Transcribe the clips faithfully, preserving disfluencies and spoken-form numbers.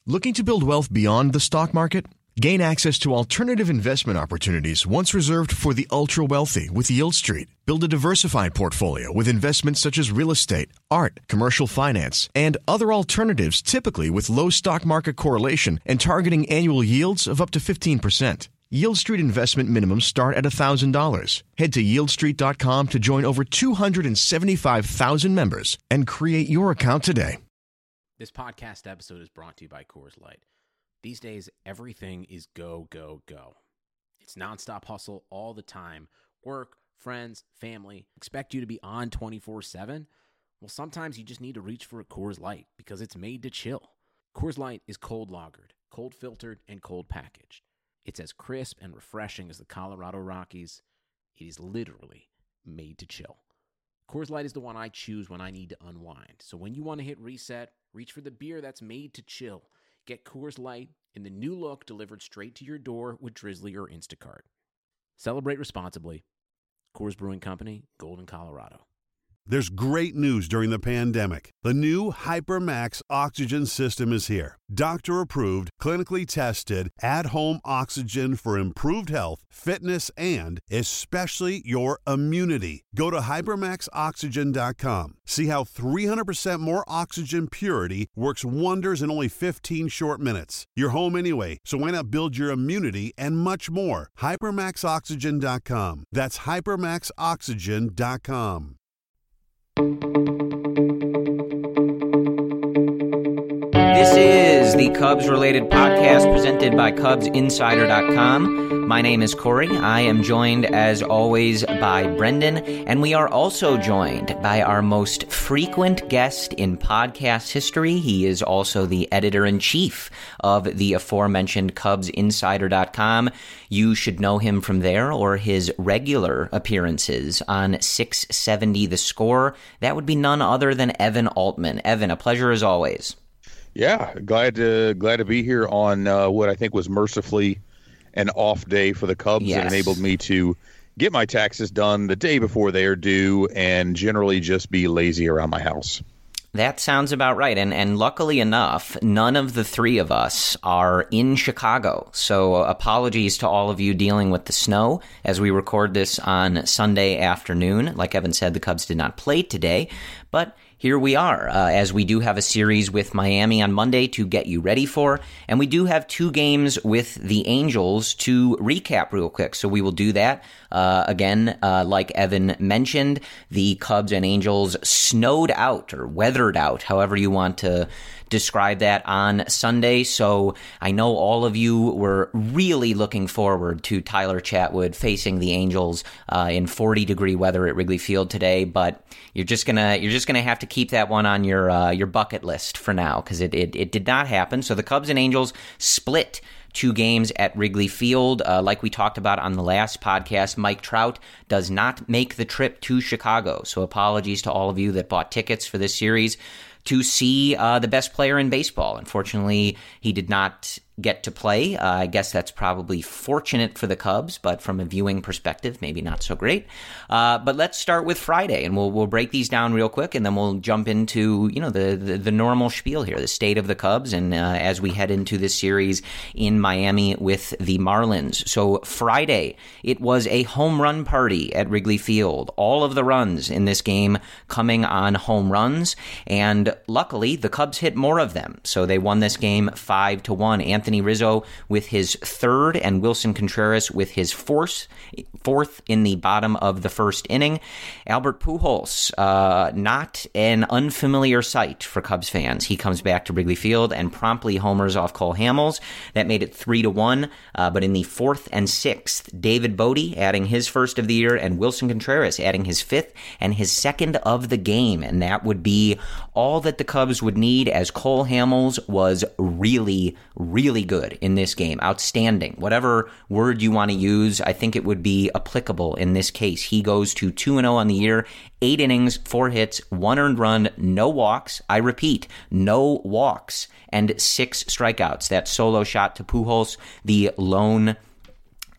Looking to build wealth beyond the stock market? Gain access to alternative investment opportunities once reserved for the ultra-wealthy with Yield Street. Build a diversified portfolio with investments such as real estate, art, commercial finance, and other alternatives typically with low stock market correlation and targeting annual yields of up to fifteen percent. Yield Street investment minimums start at one thousand dollars. Head to yield street dot com to join over two hundred seventy-five thousand members and create your account today. This podcast episode is brought to you by Coors Light. These days, everything is go, go, go. It's nonstop hustle all the time. Work, friends, family, expect you to be on twenty-four seven. Well, sometimes you just need to reach for a Coors Light because it's made to chill. Coors Light is cold lagered, cold filtered, and cold packaged. It's as crisp and refreshing as the Colorado Rockies. It is literally made to chill. Coors Light is the one I choose when I need to unwind. So when you want to hit reset, reach for the beer that's made to chill. Get Coors Light in the new look delivered straight to your door with Drizzly or Instacart. Celebrate responsibly. Coors Brewing Company, Golden, Colorado. There's great news during the pandemic. The new HyperMax oxygen system is here. Doctor-approved, clinically tested, at-home oxygen for improved health, fitness, and especially your immunity. Go to hypermax oxygen dot com. See how three hundred percent more oxygen purity works wonders in only fifteen short minutes. You're home anyway, so why not build your immunity and much more? hypermax oxygen dot com. That's hypermax oxygen dot com. This is the Cubs-related podcast presented by Cubs Insider dot com. My name is Corey. I am joined, as always, by Brendan, and we are also joined by our most frequent guest in podcast history. He is also the editor-in-chief of the aforementioned Cubs Insider dot com. You should know him from there or his regular appearances on six seventy The Score. That would be none other than Evan Altman. Evan, a pleasure as always. Yeah, glad to glad to be here on uh, what I think was mercifully an off day for the Cubs. Yes. That enabled me to get my taxes done the day before they are due and generally just be lazy around my house. That sounds about right. And and luckily enough, none of the three of us are in Chicago. So apologies to all of you dealing with the snow as we record this on Sunday afternoon. Like Evan said, the Cubs did not play today, but here we are, uh, as we do have a series with Miami on Monday to get you ready for, and we do have two games with the Angels to recap real quick, so we will do that. Uh, again, uh, like Evan mentioned, the Cubs and Angels snowed out, or weathered out, however you want to describe that, on Sunday, so I know all of you were really looking forward to Tyler Chatwood facing the Angels uh, in forty degree weather at Wrigley Field today, but you're just gonna you're just gonna have to keep that one on your uh, your bucket list for now, because it, it it did not happen. So the Cubs and Angels split two games at Wrigley Field. Uh, like we talked about on the last podcast, Mike Trout does not make the trip to Chicago, so apologies to all of you that bought tickets for this series to see uh, the best player in baseball. Unfortunately, he did not get to play. Uh, I guess that's probably fortunate for the Cubs, but from a viewing perspective, maybe not so great. Uh, but let's start with Friday, and we'll we'll break these down real quick, and then we'll jump into you know the the, the normal spiel here, the state of the Cubs, and uh, as we head into this series in Miami with the Marlins. So Friday, it was a home run party at Wrigley Field. All of the runs in this game coming on home runs, and luckily the Cubs hit more of them, so they won this game five to one. Anthony Anthony Rizzo with his third, and Wilson Contreras with his fourth, fourth in the bottom of the first inning. Albert Pujols, uh, not an unfamiliar sight for Cubs fans. He comes back to Wrigley Field and promptly homers off Cole Hamels. That made it three to one. Uh, but in the fourth and sixth, David Bodie adding his first of the year, and Wilson Contreras adding his fifth and his second of the game. And that would be all that the Cubs would need, as Cole Hamels was really, really good in this game. Outstanding. Whatever word you want to use, I think it would be applicable in this case. He goes to two and oh on the year, eight innings, four hits, one earned run, no walks. I repeat, no walks, and six strikeouts. That solo shot to Pujols, the lone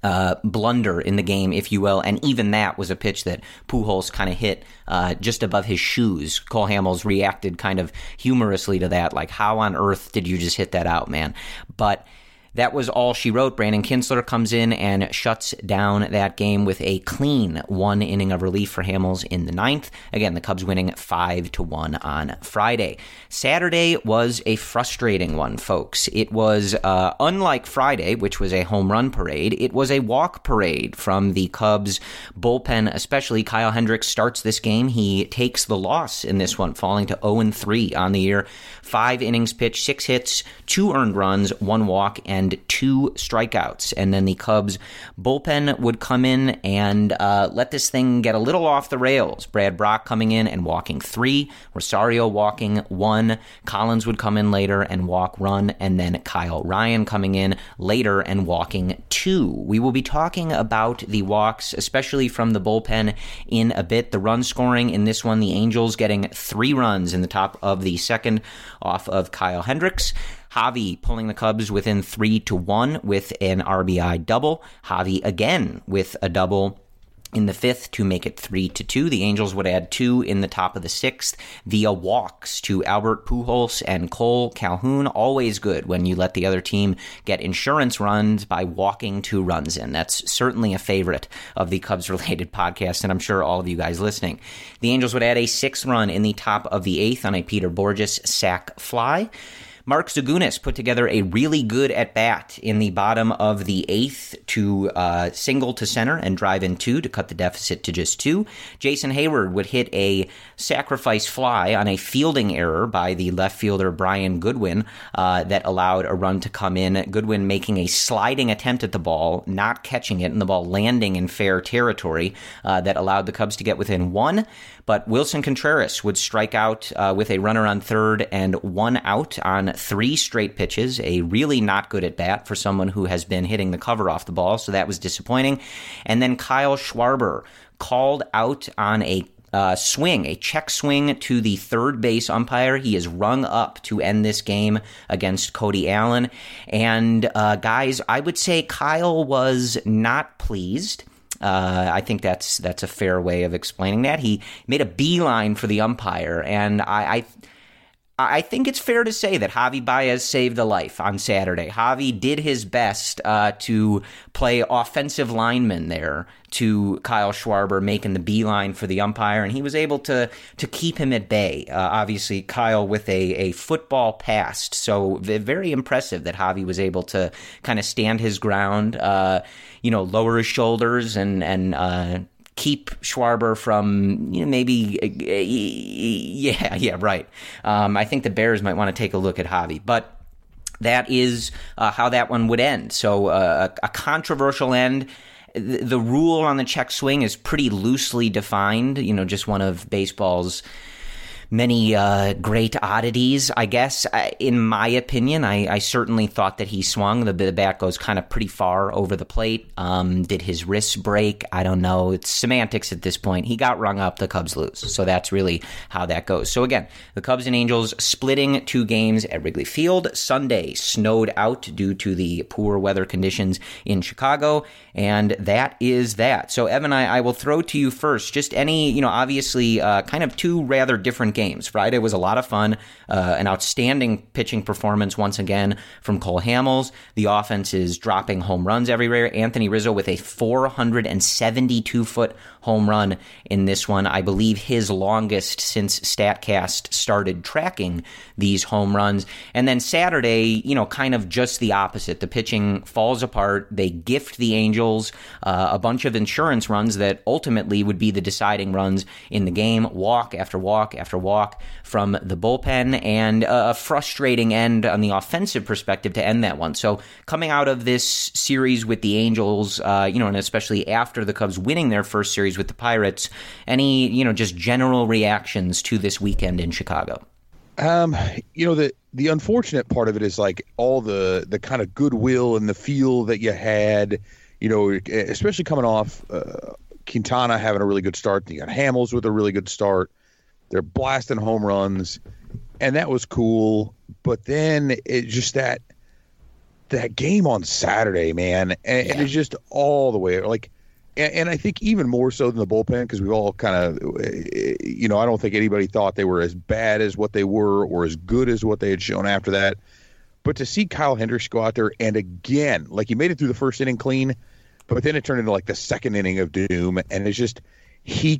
Uh, blunder in the game, if you will, and even that was a pitch that Pujols kind of hit uh, just above his shoes. Cole Hamels reacted kind of humorously to that, like, how on earth did you just hit that out, man? But that was all she wrote. Brandon Kintzler comes in and shuts down that game with a clean one inning of relief for Hamels in the ninth. Again, the Cubs winning five to one on Friday. Saturday was a frustrating one, folks. It was, uh, unlike Friday, which was a home run parade, it was a walk parade from the Cubs bullpen, especially. Kyle Hendricks starts this game. He takes the loss in this one, falling to oh and three on the year. Five innings pitched, six hits, two earned runs, one walk, and two strikeouts. And then the Cubs bullpen would come in and uh, let this thing get a little off the rails. Brad Brach coming in and walking three, Rosario walking one, Collins would come in later and walk run, and then Kyle Ryan coming in later and walking two. We will be talking about the walks, especially from the bullpen, in a bit. The run scoring in this one, the Angels getting three runs in the top of the second off of Kyle Hendricks. Javi pulling the Cubs within three to one with an R B I double. Javi again with a double in the fifth to make it three to two. The Angels would add two in the top of the sixth via walks to Albert Pujols and Cole Calhoun. Always good when you let the other team get insurance runs by walking two runs in. That's certainly a favorite of the Cubs-related podcast, and I'm sure all of you guys listening. The Angels would add a sixth run in the top of the eighth on a Peter Borges sac fly. Mark Zagunis put together a really good at-bat in the bottom of the eighth to uh, single to center and drive in two to cut the deficit to just two. Jason Hayward would hit a sacrifice fly on a fielding error by the left fielder Brian Goodwin uh, that allowed a run to come in. Goodwin making a sliding attempt at the ball, not catching it, and the ball landing in fair territory uh, that allowed the Cubs to get within one. But Wilson Contreras would strike out uh, with a runner on third and one out on three straight pitches, a really not good at bat for someone who has been hitting the cover off the ball, so that was disappointing. And then Kyle Schwarber called out on a uh, swing, a check swing to the third base umpire. He is rung up to end this game against Cody Allen. And uh, guys, I would say Kyle was not pleased. Uh, I think that's that's a fair way of explaining that. He made a beeline for the umpire, and I, I I think it's fair to say that Javi Baez saved a life on Saturday. Javi did his best uh, to play offensive lineman there to Kyle Schwarber making the beeline for the umpire, and he was able to to keep him at bay. Uh, obviously, Kyle with a, a football past, so very impressive that Javi was able to kind of stand his ground, uh, you know, lower his shoulders and, and uh, keep Schwarber from, you know, maybe, yeah, yeah, right. Um, I think the Bears might want to take a look at Javi, but that is uh, how that one would end. So uh, a, a controversial end. The, the rule on the check swing is pretty loosely defined, you know, just one of baseball's many uh, great oddities, I guess. I, in my opinion, I, I certainly thought that he swung. The, the bat goes kind of pretty far over the plate. Um, did his wrist break? I don't know. It's semantics at this point. He got rung up. The Cubs lose. So that's really how that goes. So again, the Cubs and Angels splitting two games at Wrigley Field. Sunday snowed out due to the poor weather conditions in Chicago. And that is that. So Evan, I, I will throw to you first. Just any, you know, obviously uh, kind of two rather different games. Friday was a lot of fun, uh, an outstanding pitching performance once again from Cole Hamels. The offense is dropping home runs everywhere. Anthony Rizzo with a four hundred seventy-two foot home run in this one. I believe his longest since StatCast started tracking these home runs. And then Saturday, you know, kind of just the opposite. The pitching falls apart. They gift the Angels uh, a bunch of insurance runs that ultimately would be the deciding runs in the game. Walk after walk after walk from the bullpen, and a frustrating end on the offensive perspective to end that one. So coming out of this series with the Angels, uh, you know, and especially after the Cubs winning their first series with the Pirates, any, you know, just general reactions to this weekend in Chicago? Um, you know, the the unfortunate part of it is like all the the kind of goodwill and the feel that you had, you know, especially coming off uh, Quintana having a really good start. You got Hamels with a really good start. They're blasting home runs, and that was cool. But then it just that that game on Saturday, man, and, yeah. and it's just all the way like, and, and I think even more so than the bullpen because we all kind of, you know, I don't think anybody thought they were as bad as what they were or as good as what they had shown after that. But to see Kyle Hendricks go out there and again, like he made it through the first inning clean, but then it turned into like the second inning of doom, and it's just he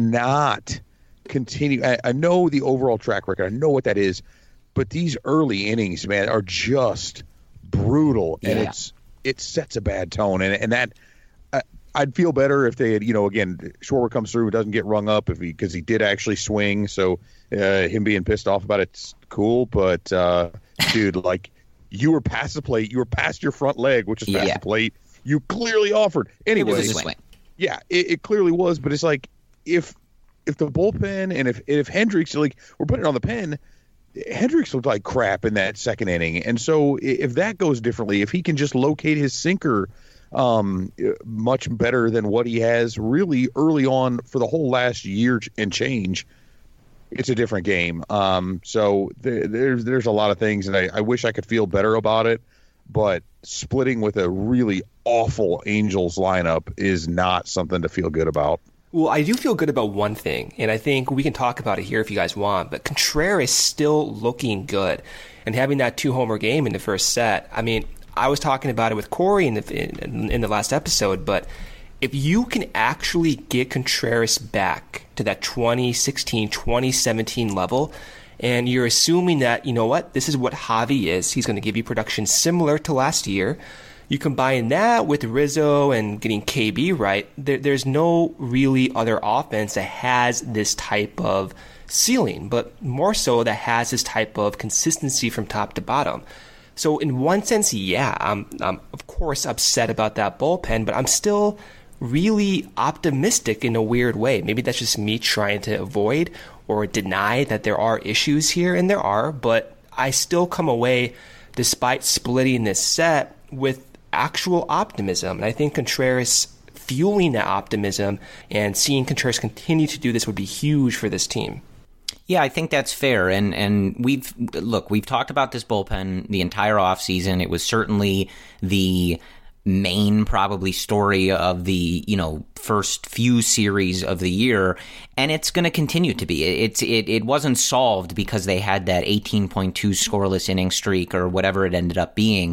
cannot continue. I, I know the overall track record, I know what that is, but these early innings, man, are just brutal, and yeah. it's it sets a bad tone, and and that I, I'd feel better if they had, you know, again, Schwarber comes through, doesn't get rung up if he because he did actually swing, so uh, him being pissed off about it's cool, but uh, dude, like you were past the plate, you were past your front leg, which is past yeah. the plate. You clearly offered. Anyway, it was a swing. Yeah, it, it clearly was, but it's like if if the bullpen and if if Hendricks, like we're putting it on the pen, Hendricks looked like crap in that second inning, and so if that goes differently, if he can just locate his sinker um, much better than what he has really early on for the whole last year and change, it's a different game. Um, so there, there's there's a lot of things, and I, I wish I could feel better about it, but splitting with a really awful Angels lineup is not something to feel good about. Well, I do feel good about one thing, and I think we can talk about it here if you guys want, but Contreras still looking good and having that two-homer game in the first set. I mean, I was talking about it with Corey in the, in, in the last episode, but if you can actually get Contreras back to that twenty sixteen, twenty seventeen level, and you're assuming that, you know what, this is what Javi is, he's going to give you production similar to last year. You combine that with Rizzo and getting K B right, there, there's no really other offense that has this type of ceiling, but more so that has this type of consistency from top to bottom. So in one sense, yeah, I'm, I'm of course upset about that bullpen, but I'm still really optimistic in a weird way. Maybe that's just me trying to avoid or deny that there are issues here, and there are, but I still come away, despite splitting this set, with actual optimism. And I think Contreras fueling that optimism and seeing Contreras continue to do this would be huge for this team. Yeah, I think that's fair. And and we've look, we've talked about this bullpen the entire offseason. It was certainly the main probably story of the, you know, first few series of the year, and it's going to continue to be. It's it it wasn't solved because they had that eighteen point two scoreless inning streak or whatever it ended up being.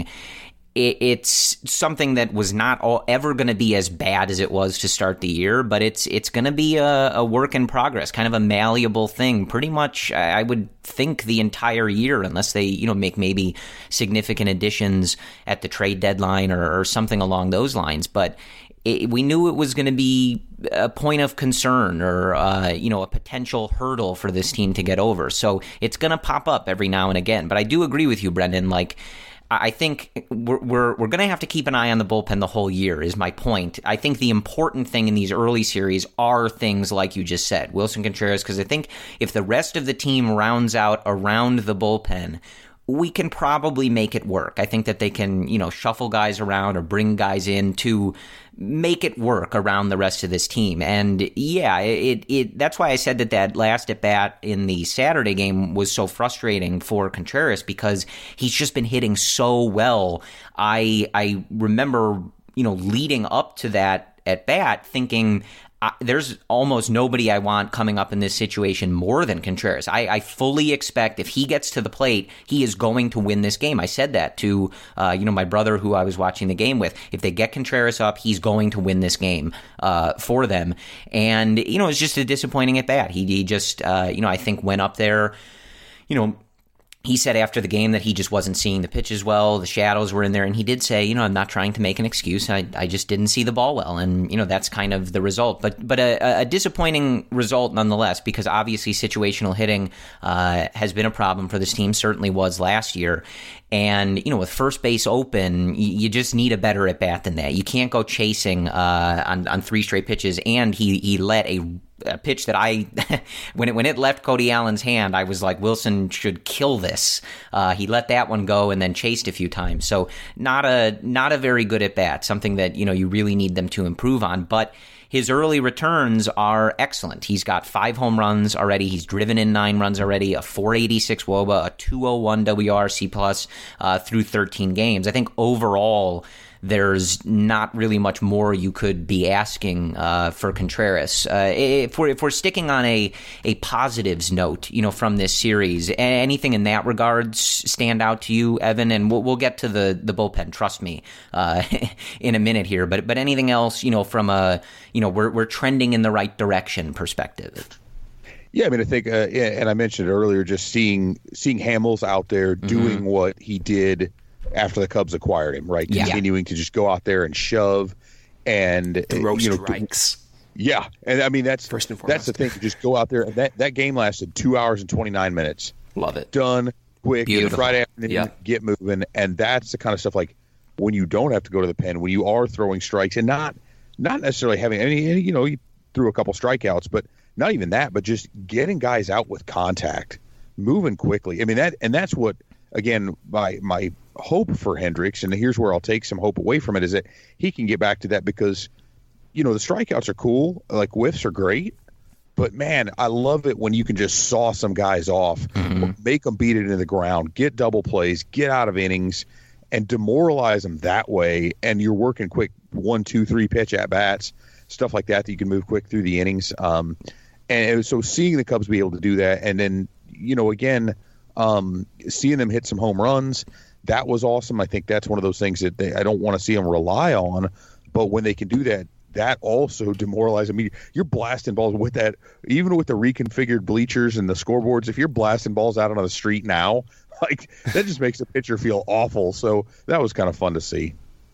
It's something that was not all ever going to be as bad as it was to start the year, but it's it's going to be a, a work in progress, kind of a malleable thing. Pretty much, I would think the entire year, unless they you know make maybe significant additions at the trade deadline or, or something along those lines. But it, we knew it was going to be a point of concern or uh, you know a potential hurdle for this team to get over. So it's going to pop up every now and again. But I do agree with you, Brendan. Like, I think we're we're, we're going to have to keep an eye on the bullpen the whole year is my point. I think the important thing in these early series are things like you just said, Wilson Contreras, because I think if the rest of the team rounds out around the bullpen, we can probably make it work. I think that they can, you know, shuffle guys around or bring guys in to make it work around the rest of this team. And yeah, it it that's why I said that that last at bat in the Saturday game was so frustrating for Contreras, because he's just been hitting so well. I I remember, you know, leading up to that at bat thinking, Uh, there's almost nobody I want coming up in this situation more than Contreras. I, I fully expect if he gets to the plate, he is going to win this game. I said that to uh, you know my brother who I was watching the game with. If they get Contreras up, he's going to win this game uh, for them. And you know it's just a disappointing at bat. He, he just uh, you know I think went up there, you know. He said after the game that he just wasn't seeing the pitches well. The shadows were in there. And he did say, you know, I'm not trying to make an excuse. I, I just didn't see the ball well. And, you know, that's kind of the result. But but a, a disappointing result nonetheless, because obviously situational hitting uh, has been a problem for this team, certainly was last year. And, you know, with first base open, you just need a better at bat than that. You can't go chasing uh, on, on three straight pitches. And he, he let a A pitch that I, when it when it left Cody Allen's hand, I was like, Wilson should kill this. Uh, he let that one go and then chased a few times. So not a not a very good at bat. Something that you know you really need them to improve on. But his early returns are excellent. He's got five home runs already. He's driven in nine runs already, a four eighty-six W O B A, a two oh one W R C plus uh, through thirteen games. I think overall, there's not really much more you could be asking uh, for Contreras. Uh, if we're if we're sticking on a a positives note, you know, from this series, anything in that regards stand out to you, Evan? And we'll, we'll get to the the bullpen. Trust me, uh, in a minute here. But but anything else, you know, from a you know we're we're trending in the right direction perspective. Yeah, I mean, I think, uh, and I mentioned earlier, just seeing seeing Hamels out there doing mm-hmm. what he did after the Cubs acquired him, right? Yeah. Continuing to just go out there and shove and throw you know, strikes. Yeah, and I mean that's First and that's the thing. Just go out there. And that that game lasted two hours and twenty nine minutes. Love it. Done quick. Beautiful. Friday afternoon. Yeah. Get moving, and that's the kind of stuff like when you don't have to go to the pen, when you are throwing strikes and not not necessarily having any. You know, you threw a couple strikeouts, but not even that. But just getting guys out with contact, moving quickly. I mean that, and that's what again my my. hope for Hendricks, and here's where I'll take some hope away from it, is that he can get back to that because, you know, the strikeouts are cool, like whiffs are great, but man, I love it when you can just saw some guys off, mm-hmm. make them beat it into the ground, get double plays, get out of innings, and demoralize them that way, and you're working quick one, two, three pitch at bats, stuff like that that you can move quick through the innings. Um, and so seeing the Cubs be able to do that, and then, you know, again, um, seeing them hit some home runs, that was awesome. I think that's one of those things that they, I don't want to see them rely on, but when they can do that, that also demoralizes. I mean, you're blasting balls with that, even with the reconfigured bleachers and the scoreboards. If you're blasting balls out on the street now, like that just makes the pitcher feel awful. So that was kind of fun to see.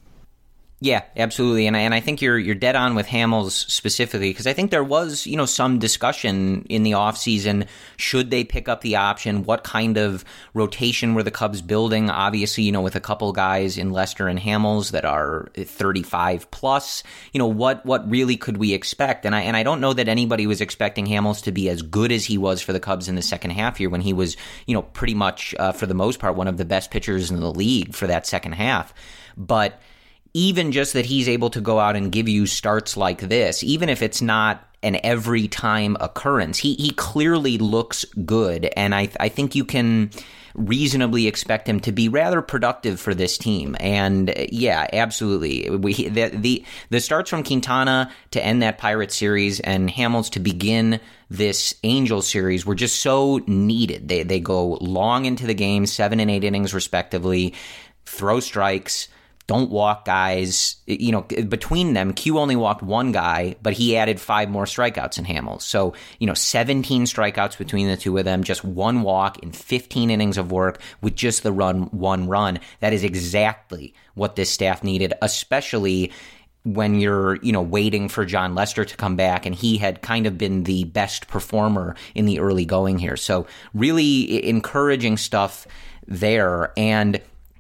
Yeah, absolutely, and I, and I think you're you're dead on with Hamels specifically, because I think there was, you know, some discussion in the offseason, should they pick up the option, what kind of rotation were the Cubs building? Obviously, you know, with a couple guys in Lester and Hamels that are thirty-five plus, you know, what what really could we expect? And I and I don't know that anybody was expecting Hamels to be as good as he was for the Cubs in the second half here, when he was, you know, pretty much uh, for the most part one of the best pitchers in the league for that second half, but even just that he's able to go out and give you starts like this, even if it's not an every time occurrence, he he clearly looks good, and I I think you can reasonably expect him to be rather productive for this team. And yeah, absolutely, we the the, the starts from Quintana to end that Pirates series and Hamels to begin this Angels series were just so needed. They they go long into the game, seven and eight innings respectively, throw strikes, don't walk guys. You know, between them, Q only walked one guy, but he added five more strikeouts in Hamels. So, you know, seventeen strikeouts between the two of them, just one walk in fifteen innings of work with just the run, one run. That is exactly what this staff needed, especially when you're, you know, waiting for John Lester to come back, and he had kind of been the best performer in the early going here. So really encouraging stuff there. And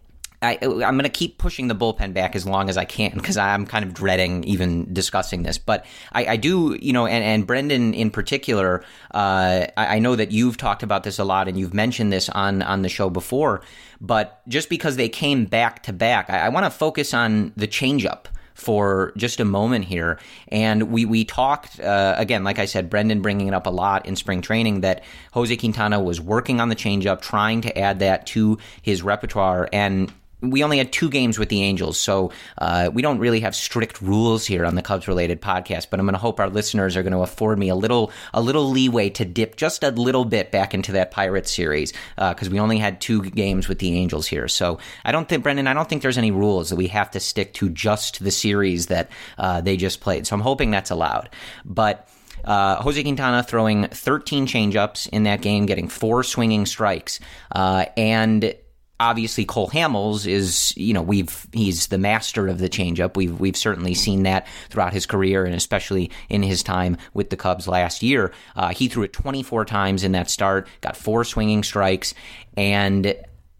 I, I'm going to keep pushing the bullpen back as long as I can, because I'm kind of dreading even discussing this. But I, I do, you know, and, and Brendan in particular, uh, I, I know that you've talked about this a lot and you've mentioned this on, on the show before. But just because they came back to back, I, I want to focus on the changeup for just a moment here. And we, we talked, uh, again, like I said, Brendan bringing it up a lot in spring training, that Jose Quintana was working on the changeup, trying to add that to his repertoire. And we only had two games with the Angels, so uh, we don't really have strict rules here on the Cubs-related podcast, but I'm going to hope our listeners are going to afford me a little a little leeway to dip just a little bit back into that Pirates series, because uh, we only had two games with the Angels here. So I don't think, Brendan, I don't think there's any rules that we have to stick to just the series that uh, they just played. So I'm hoping that's allowed. But Uh, Jose Quintana throwing thirteen changeups in that game, getting four swinging strikes, uh, and obviously, Cole Hamels is, you know, we've he's the master of the changeup. We've we've certainly seen that throughout his career, and especially in his time with the Cubs last year. Uh, he threw it twenty-four times in that start, got four swinging strikes, and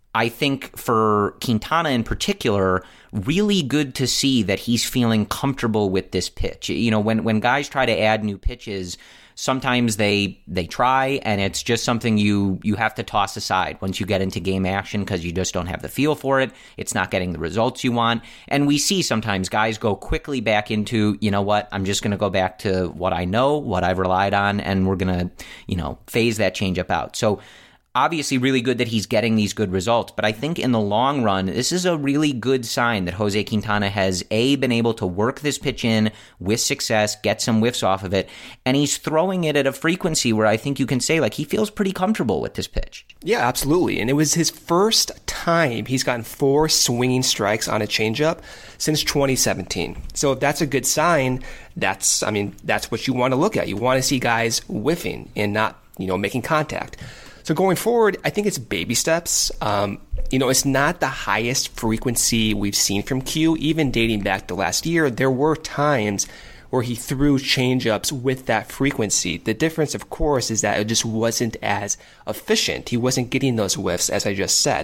I think for Quintana in particular, really good to see that he's feeling comfortable with this pitch. You know, when, when guys try to add new pitches, sometimes they they try, and it's just something you you have to toss aside once you get into game action because you just don't have the feel for it. It's not getting the results you want. And we see sometimes guys go quickly back into, you know what, I'm just going to go back to what I know, what I've relied on, and we're going to, you know, phase that changeup out. So obviously really good that he's getting these good results, but I think in the long run, this is a really good sign that Jose Quintana has, A, been able to work this pitch in with success, get some whiffs off of it, and he's throwing it at a frequency where I think you can say, like, he feels pretty comfortable with this pitch. Yeah, absolutely. And it was his first time he's gotten four swinging strikes on a changeup since twenty seventeen. So if that's a good sign, that's, I mean, that's what you want to look at. You want to see guys whiffing and not, you know, making contact. So going forward, I think it's baby steps. Um, you know, it's not the highest frequency we've seen from Q. Even dating back to last year, there were times where he threw changeups with that frequency. The difference, of course, is that it just wasn't as efficient. He wasn't getting those whiffs, as I just said.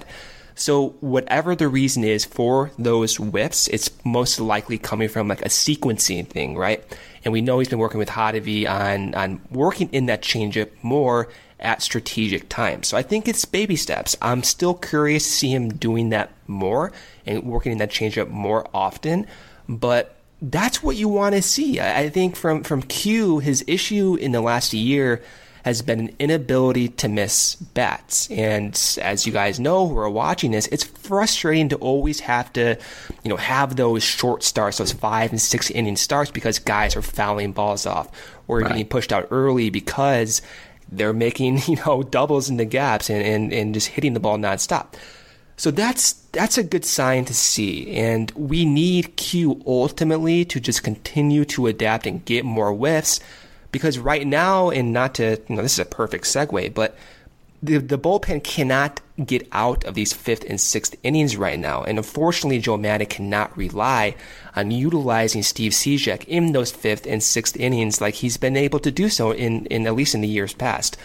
So whatever the reason is for those whiffs, it's most likely coming from like a sequencing thing, right? And we know he's been working with Hottovy on, on working in that changeup more at strategic times. So I think it's baby steps. I'm still curious to see him doing that more and working in that changeup more often, but that's what you want to see. I think from, from Q, his issue in the last year has been an inability to miss bats. And as you guys know who are watching this, it's frustrating to always have to, you know, have those short starts, those five and six inning starts because guys are fouling balls off or right. getting pushed out early because they're making, you know, doubles in the gaps and, and, and just hitting the ball nonstop. So that's that's a good sign to see. And we need Q ultimately to just continue to adapt and get more whiffs. Because right now, and not to, you know, this is a perfect segue, but the the bullpen cannot get out of these fifth and sixth innings right now. And unfortunately, Joe Maddon cannot rely on utilizing Steve Cishek in those fifth and sixth innings like he's been able to do so in, in at least in the years past.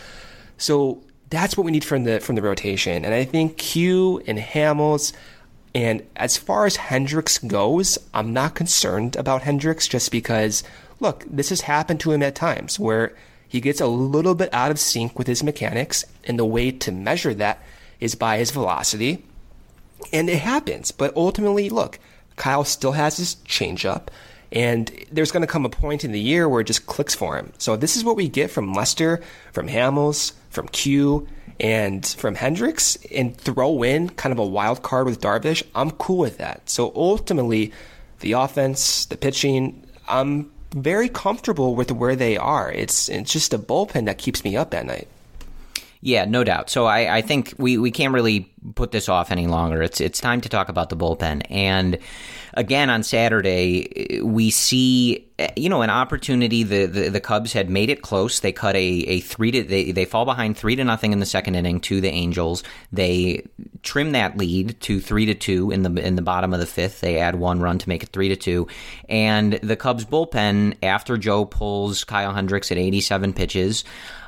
So that's what we need from the from the rotation. And I think Q and Hamels, and as far as Hendricks goes, I'm not concerned about Hendricks just because, look, this has happened to him at times where he gets a little bit out of sync with his mechanics, and the way to measure that is by his velocity. And it happens. But ultimately, look, Kyle still has his changeup, and there's going to come a point in the year where it just clicks for him. So this is what we get from Lester, from Hamels, from Q, and from Hendricks, and throw in kind of a wild card with Darvish. I'm cool with that. So ultimately, the offense, the pitching, I'm very comfortable with where they are. It's it's just a bullpen that keeps me up at night. Yeah, no doubt. So I, I think we, we can't really put this off any longer. It's it's time to talk about the bullpen. And again, on Saturday, we see, you know, an opportunity. The, the, the Cubs had made it close. They cut a, a three to they, they fall behind three to nothing in the second inning to the Angels. They trim that lead to three to two in the in the bottom of the fifth. They add one run to make it three to two. And the Cubs bullpen, after Joe pulls Kyle Hendricks at eighty-seven pitches,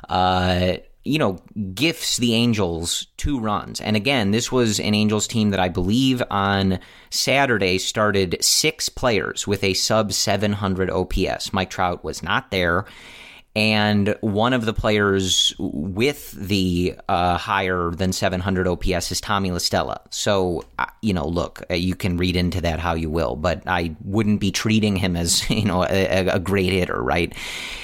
uh, you know, gifts the Angels two runs. And again, this was an Angels team that I believe on Saturday started six players with a sub seven hundred O P S. Mike Trout was not there. And one of the players with the uh, higher than seven hundred O P S is Tommy La Stella. So, you know, look, you can read into that how you will, but I wouldn't be treating him as, you know, a, a great hitter, right?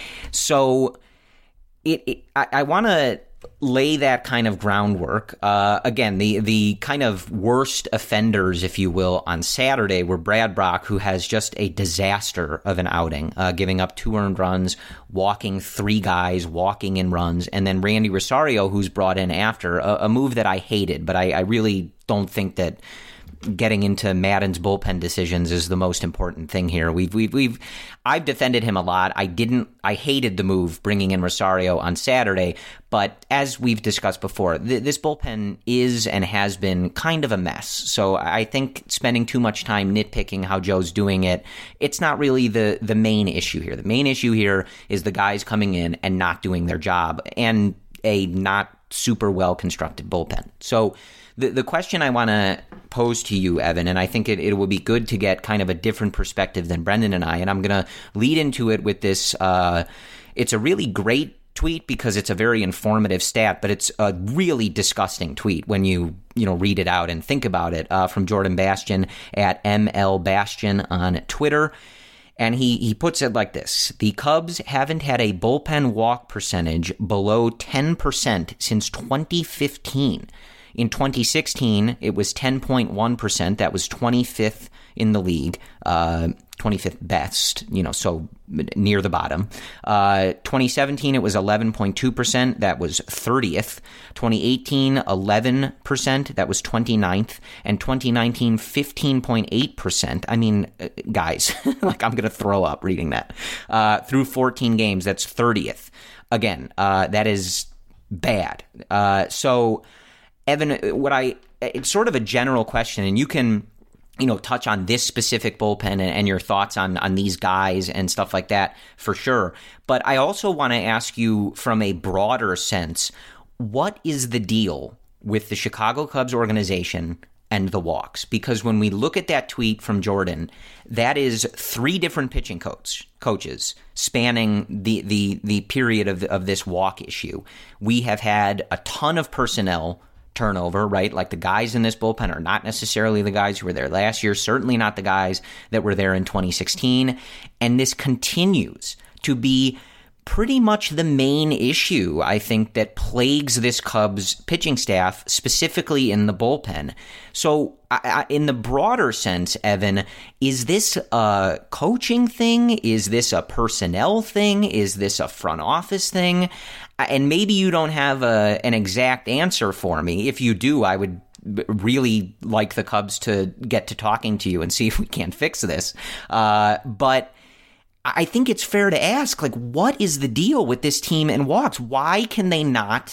So It, it, I, I want to lay that kind of groundwork. Uh, again, the the kind of worst offenders, if you will, on Saturday were Brad Brach, who has just a disaster of an outing, uh, giving up two earned runs, walking three guys, walking in runs, and then Randy Rosario, who's brought in after, a, a move that I hated, but I, I really don't think that getting into Maddon's bullpen decisions is the most important thing here. We've, we've, we've, I've defended him a lot. I didn't, I hated the move bringing in Rosario on Saturday, but as we've discussed before, th- this bullpen is and has been kind of a mess. So I think spending too much time nitpicking how Joe's doing it, it's not really the, the main issue here. The main issue here is the guys coming in and not doing their job and a not super well constructed bullpen. So the, the question I want to pose to you, Evan, and I think it, it would be good to get kind of a different perspective than Brendan and I, and I'm going to lead into it with this. Uh, it's a really great tweet because it's a very informative stat, but it's a really disgusting tweet when you you know read it out and think about it, uh, from Jordan Bastian at M L Bastian on Twitter. And he, he puts it like this: the Cubs haven't had a bullpen walk percentage below ten percent since twenty fifteen. In twenty sixteen, it was ten point one percent. That was twenty-fifth in the league, uh, twenty-fifth best, you know, so near the bottom. Uh, twenty seventeen, it was eleven point two percent. That was thirtieth. twenty eighteen, eleven percent. That was twenty-ninth. And twenty nineteen, fifteen point eight percent. I mean, guys, like I'm going to throw up reading that. Uh, through fourteen games, that's thirtieth. Again, uh, that is bad. Uh, so... Evan, what I it's sort of a general question, and you can, you know, touch on this specific bullpen and, and your thoughts on on these guys and stuff like that for sure. But I also want to ask you from a broader sense, what is the deal with the Chicago Cubs organization and the walks? Because when we look at that tweet from Jordan, that is three different pitching coach, coaches spanning the the the period of of this walk issue. We have had a ton of personnel turnover, right? Like the guys in this bullpen are not necessarily the guys who were there last year, certainly not the guys that were there in twenty sixteen. And this continues to be pretty much the main issue, I think, that plagues this Cubs pitching staff, specifically in the bullpen. So I, I, in the broader sense, Evan, is this a coaching thing? Is this a personnel thing? Is this a front office thing? And maybe you don't have a, an exact answer for me. If you do, I would really like the Cubs to get to talking to you and see if we can fix this. Uh, but I think it's fair to ask, like, what is the deal with this team and walks? Why can they not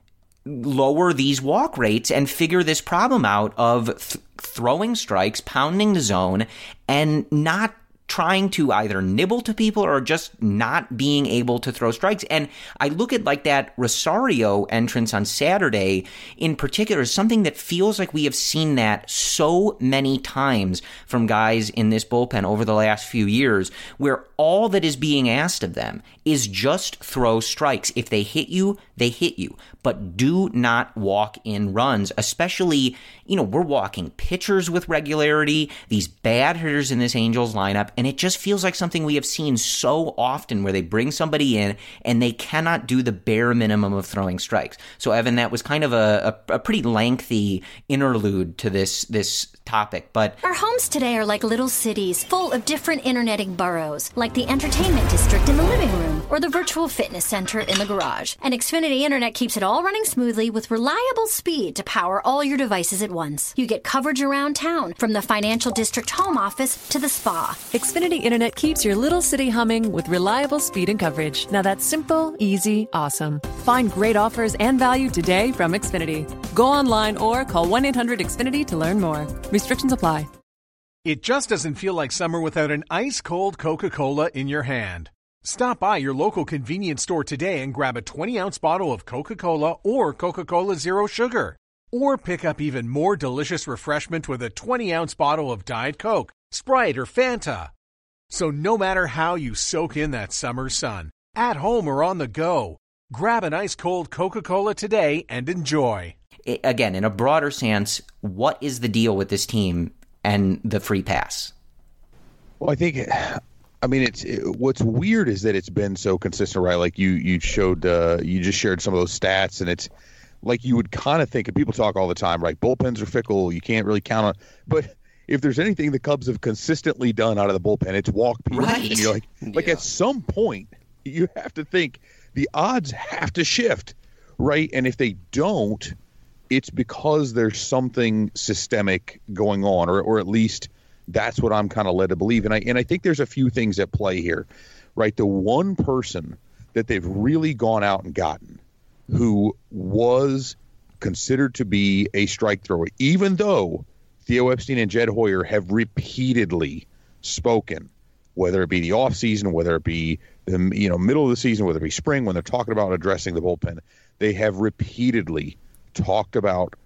lower these walk rates and figure this problem out of th- throwing strikes, pounding the zone, and not trying to either nibble to people or just not being able to throw strikes? And I look at like that Rosario entrance on Saturday in particular as something that feels like we have seen that so many times from guys in this bullpen over the last few years, where all that is being asked of them is just throw strikes. If they hit you, they hit you, but do not walk in runs, especially, you know, we're walking pitchers with regularity, these bad hitters in this Angels lineup, and it just feels like something we have seen so often where they bring somebody in and they cannot do the bare minimum of throwing strikes. So, Evan, that was kind of a, a, a pretty lengthy interlude to this this topic, but our homes today are like little cities full of different interneting boroughs, like the entertainment district in the living room or the virtual fitness center in the garage. And Xfinity Internet keeps it all running smoothly with reliable speed to power all your devices at once. You get coverage around town, from the financial district home office to the spa. Xfinity Internet keeps your little city humming with reliable speed and coverage. Now that's simple, easy, awesome. Find great offers and value today from Xfinity. Go online or call one eight hundred X Finity to learn more. Restrictions apply. It just doesn't feel like summer without an ice-cold Coca-Cola in your hand. Stop by your local convenience store today and grab a twenty-ounce bottle of Coca-Cola or Coca-Cola Zero Sugar. Or pick up even more delicious refreshment with a twenty-ounce bottle of Diet Coke, Sprite, or Fanta. So no matter how you soak in that summer sun, at home or on the go, grab an ice-cold Coca-Cola today and enjoy. Again, in a broader sense, what is the deal with this team and the free pass? Well, I think, I mean, it's it, what's weird is that it's been so consistent, right? Like you you showed, uh, you just shared some of those stats, and it's like you would kind of think, and people talk all the time, right? Bullpens are fickle. You can't really count on, but if there's anything the Cubs have consistently done out of the bullpen, it's walk people. Right. And you're like, like yeah. At some point, you have to think the odds have to shift, right? And if they don't, it's because there's something systemic going on, or or at least that's what I'm kind of led to believe. And I and I think there's a few things at play here, right? The one person that they've really gone out and gotten who was considered to be a strike thrower, even though Theo Epstein and Jed Hoyer have repeatedly spoken, whether it be the offseason, whether it be the you know middle of the season, whether it be spring, when they're talking about addressing the bullpen, they have repeatedly talked about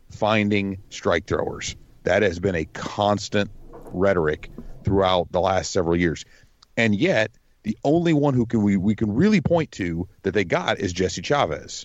finding strike throwers. That has been a constant rhetoric throughout the last several years. And yet, the only one who can we, we can really point to that they got is Jesse Chavez.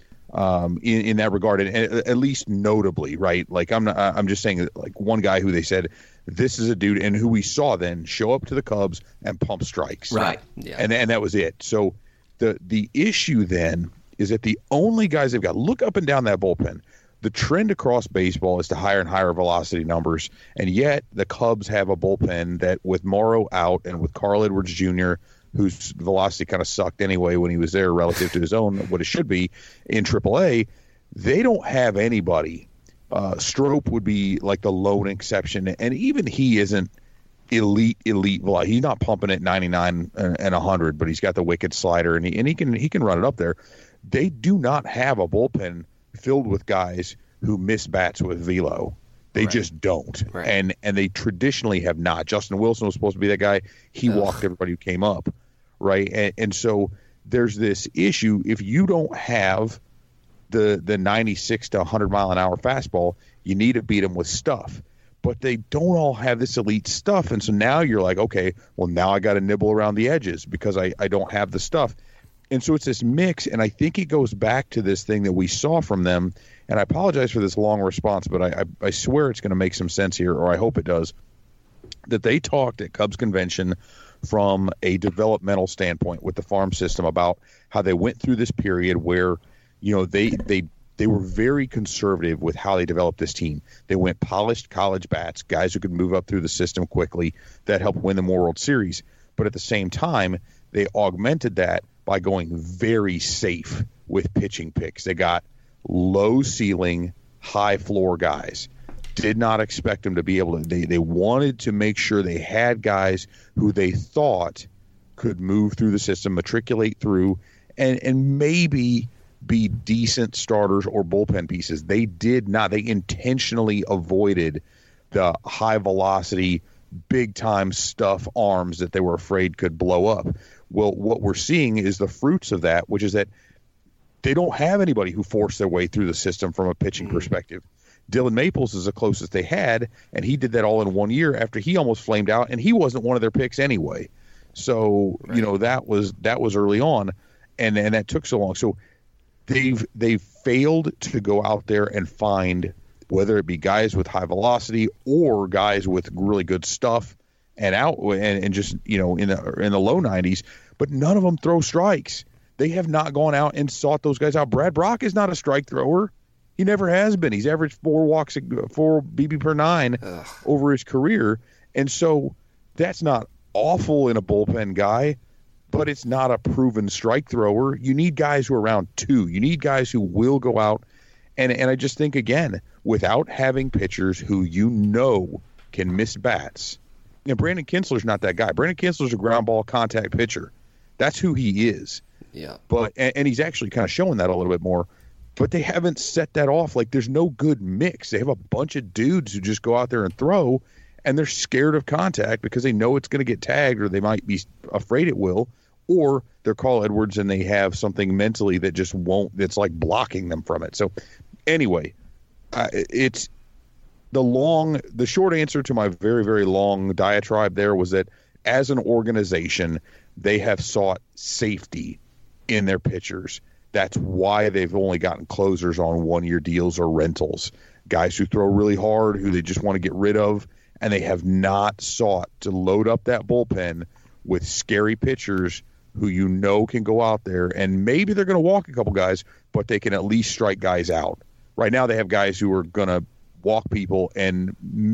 Um, in, in that regard, and at least notably, right? Like I'm not, I'm just saying that, like, one guy who they said this is a dude, and who we saw then show up to the Cubs and pump strikes, right? Yeah, and and that was it. So the the issue then is that the only guys they've got, look up and down that bullpen. The trend across baseball is to higher and higher velocity numbers, and yet the Cubs have a bullpen that, with Morrow out and with Carl Edwards Junior, whose velocity kind of sucked anyway when he was there relative to his own, what it should be in triple A, they don't have anybody. Uh, Strope would be like the lone exception, and even he isn't elite, elite velocity. He's not pumping at ninety-nine and one hundred, but he's got the wicked slider, and he, and he can he can run it up there. They do not have a bullpen filled with guys who miss bats with velo. They right. just don't. Right. And and they traditionally have not. Justin Wilson was supposed to be that guy. He Ugh. walked everybody who came up, right? And, and so there's this issue. If you don't have the the ninety-six to one hundred mile an hour fastball, you need to beat them with stuff. But they don't all have this elite stuff. And so now you're like, okay, well, now I got to nibble around the edges because I, I don't have the stuff. And so it's this mix, and I think it goes back to this thing that we saw from them. And I apologize for this long response, but I, I, I swear it's going to make some sense here, or I hope it does, that they talked at Cubs Convention from a developmental standpoint with the farm system about how they went through this period where, you know, they they they were very conservative with how they developed this team. They went polished college bats, guys who could move up through the system quickly, that helped win them more World Series. But at the same time, they augmented that by going very safe with pitching picks. They got low ceiling, high floor guys. Did not expect them to be able to. They, they wanted to make sure they had guys who they thought could move through the system, matriculate through, and, and maybe be decent starters or bullpen pieces. They did not. They intentionally avoided the high velocity, big time stuff arms that they were afraid could blow up. Well, what we're seeing is the fruits of that, which is that they don't have anybody who forced their way through the system from a pitching mm-hmm. perspective. Dylan Maples is the closest they had, and he did that all in one year after he almost flamed out, and he wasn't one of their picks anyway. So, right. you know, that was that was early on, and, and that took so long. So they've they've failed to go out there and find, whether it be guys with high velocity or guys with really good stuff and out and, and just, you know, in the in the low nineties, but none of them throw strikes. They have not gone out and sought those guys out. Brad Brock is not a strike thrower. He never has been. He's averaged four walks, four B B per nine Ugh. over his career. And so that's not awful in a bullpen guy, but it's not a proven strike thrower. You need guys who are around two. You need guys who will go out. And, and I just think, again, without having pitchers who you know can miss bats, you know, Brandon Kinsler's not that guy. Brandon Kinsler's a ground ball contact pitcher. That's who he is. Yeah. But and, and he's actually kind of showing that a little bit more. But they haven't set that off. Like, there's no good mix. They have a bunch of dudes who just go out there and throw, and they're scared of contact because they know it's going to get tagged, or they might be afraid it will, or they're Carl Edwards and they have something mentally that just won't, that's like blocking them from it. So anyway, uh, it's the long, the short answer to my very, very long diatribe there was that as an organization, they have sought safety in their pitchers. That's why they've only gotten closers on one-year deals or rentals, guys who throw really hard, who they just want to get rid of, and they have not sought to load up that bullpen with scary pitchers who you know can go out there, and maybe they're going to walk a couple guys, but they can at least strike guys out. Right now they have guys who are going to walk people and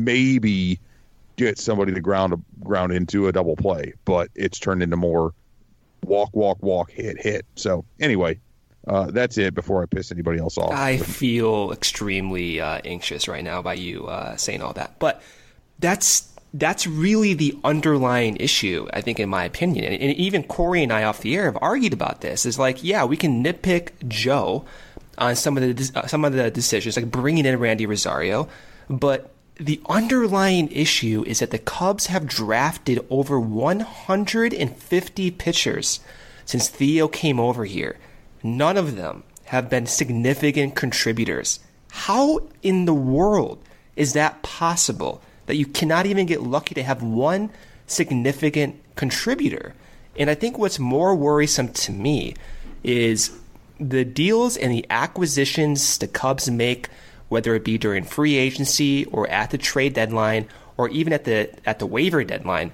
maybe get somebody to ground ground into a double play, but it's turned into more walk, walk, walk, hit, hit. So anyway, Uh, that's it before I piss anybody else off. I feel extremely uh, anxious right now by you uh, saying all that. But that's that's really the underlying issue, I think, in my opinion. And, and even Corey and I off the air have argued about this. It's like, yeah, we can nitpick Joe on some of the uh, some of the decisions, like bringing in Randy Rosario. But the underlying issue is that the Cubs have drafted over one hundred fifty pitchers since Theo came over here. None of them have been significant contributors How in the world is that possible, that you cannot even get lucky to have one significant contributor? And I think what's more worrisome to me is the deals and the acquisitions the Cubs make, whether it be during free agency or at the trade deadline or even at the at the waiver deadline,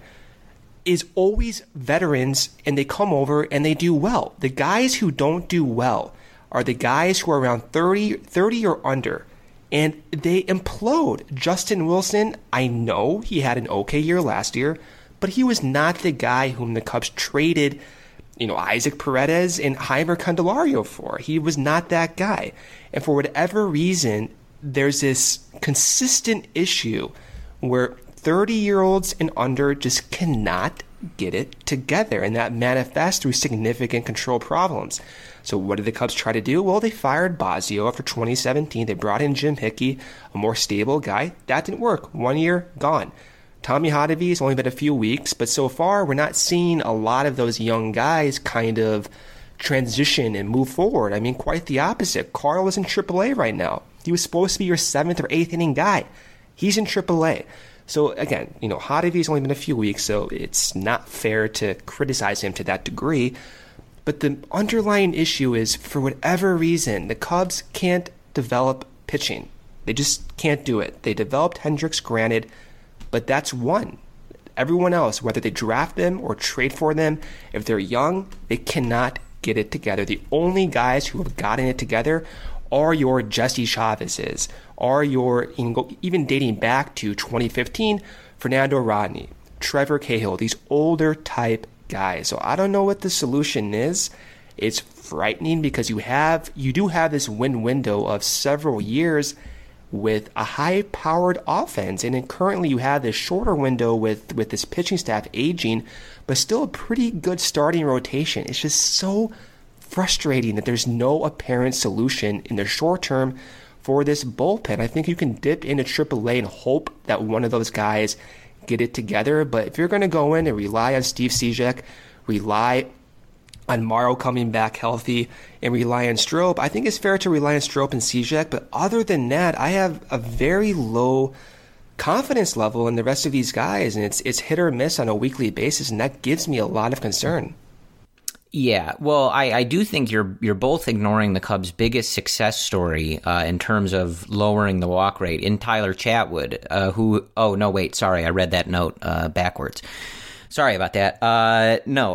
is always veterans, and they come over and they do well. The guys who don't do well are the guys who are around thirty, thirty or under, and they implode. Justin Wilson, I know he had an okay year last year, but he was not the guy whom the Cubs traded, you know, Isaac Paredes and Jeimer Candelario for. He was not that guy. And for whatever reason, there's this consistent issue where thirty-year-olds and under just cannot get it together, and that manifests through significant control problems. So what did the Cubs try to do? Well, they fired Bosio after twenty seventeen. They brought in Jim Hickey, a more stable guy. That didn't work. One year, gone. Tommy Hotovy has only been a few weeks, but so far we're not seeing a lot of those young guys kind of transition and move forward. I mean, quite the opposite. Carl is in triple A right now. He was supposed to be your seventh or eighth inning guy. He's in triple A. So again, you know, Hotovy's only been a few weeks, so it's not fair to criticize him to that degree. But the underlying issue is, for whatever reason, the Cubs can't develop pitching. They just can't do it. They developed Hendricks, granted, but that's one. Everyone else, whether they draft them or trade for them, if they're young, they cannot get it together. The only guys who have gotten it together are your Jesse Chavez's, are your, even dating back to twenty fifteen, Fernando Rodney, Trevor Cahill, these older type guys. So I don't know what the solution is. It's frightening because you have, you do have this win window of several years with a high-powered offense, and then currently you have this shorter window with, with this pitching staff aging, but still a pretty good starting rotation. It's just so frustrating that there's no apparent solution in the short term for this bullpen. I think you can dip into triple A and hope that one of those guys get it together, but if you're going to go in and rely on Steve Cishek, rely on Morrow coming back healthy, and rely on Strop, I think it's fair to rely on Strop and Cishek, but other than that, I have a very low confidence level in the rest of these guys, and it's it's hit or miss on a weekly basis, and that gives me a lot of concern. Yeah, well, I, I do think you're you're both ignoring the Cubs' biggest success story uh, in terms of lowering the walk rate in Tyler Chatwood, uh, who, oh, no, wait, sorry, I read that note uh, backwards. Sorry about that. Uh, no.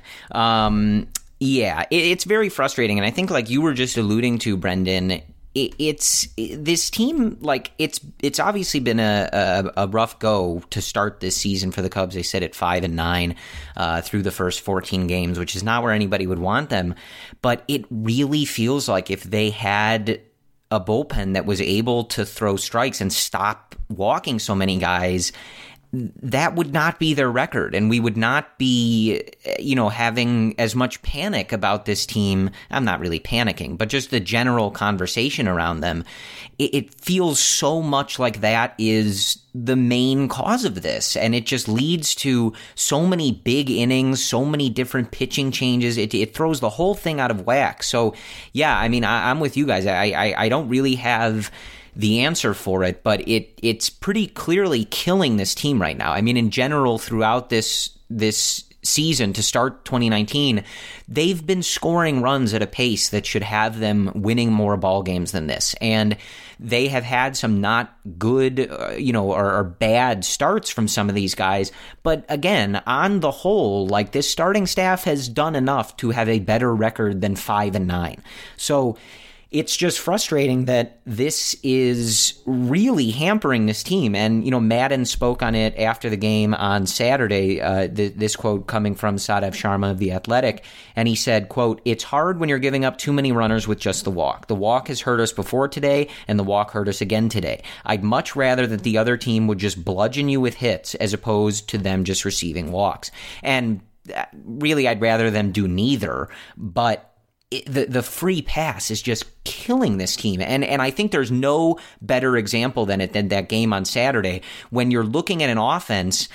um, yeah, it, it's very frustrating, and I think like you were just alluding to, Brendan, it, it's it, this team, like it's it's obviously been a, a, a rough go to start this season for the Cubs. They sit at five and nine uh, through the first fourteen games, which is not where anybody would want them. But it really feels like if they had a bullpen that was able to throw strikes and stop walking so many guys, that would not be their record, and we would not be, you know, having as much panic about this team. I'm not really panicking, but just the general conversation around them. It, it feels so much like that is the main cause of this, and it just leads to so many big innings, so many different pitching changes. It, it throws the whole thing out of whack. So, yeah, I mean, I, I'm with you guys. I, I, I don't really have the answer for it, but it it's pretty clearly killing this team right now. I mean, in general, throughout this this season to start twenty nineteen, they've been scoring runs at a pace that should have them winning more ball games than this. And they have had some not good, uh, you know, or, or bad starts from some of these guys. But again, on the whole, like this starting staff has done enough to have a better record than five and nine. So it's just frustrating that this is really hampering this team. And, you know, Madden spoke on it after the game on Saturday, uh, th- this quote coming from Sadev Sharma of The Athletic. And he said, quote, "It's hard when you're giving up too many runners with just the walk. The walk has hurt us before today, and the walk hurt us again today. I'd much rather that the other team would just bludgeon you with hits as opposed to them just receiving walks." And really, I'd rather them do neither, but It, the the free pass is just killing this team. And and I think there's no better example than it than that game on Saturday when you're looking at an offense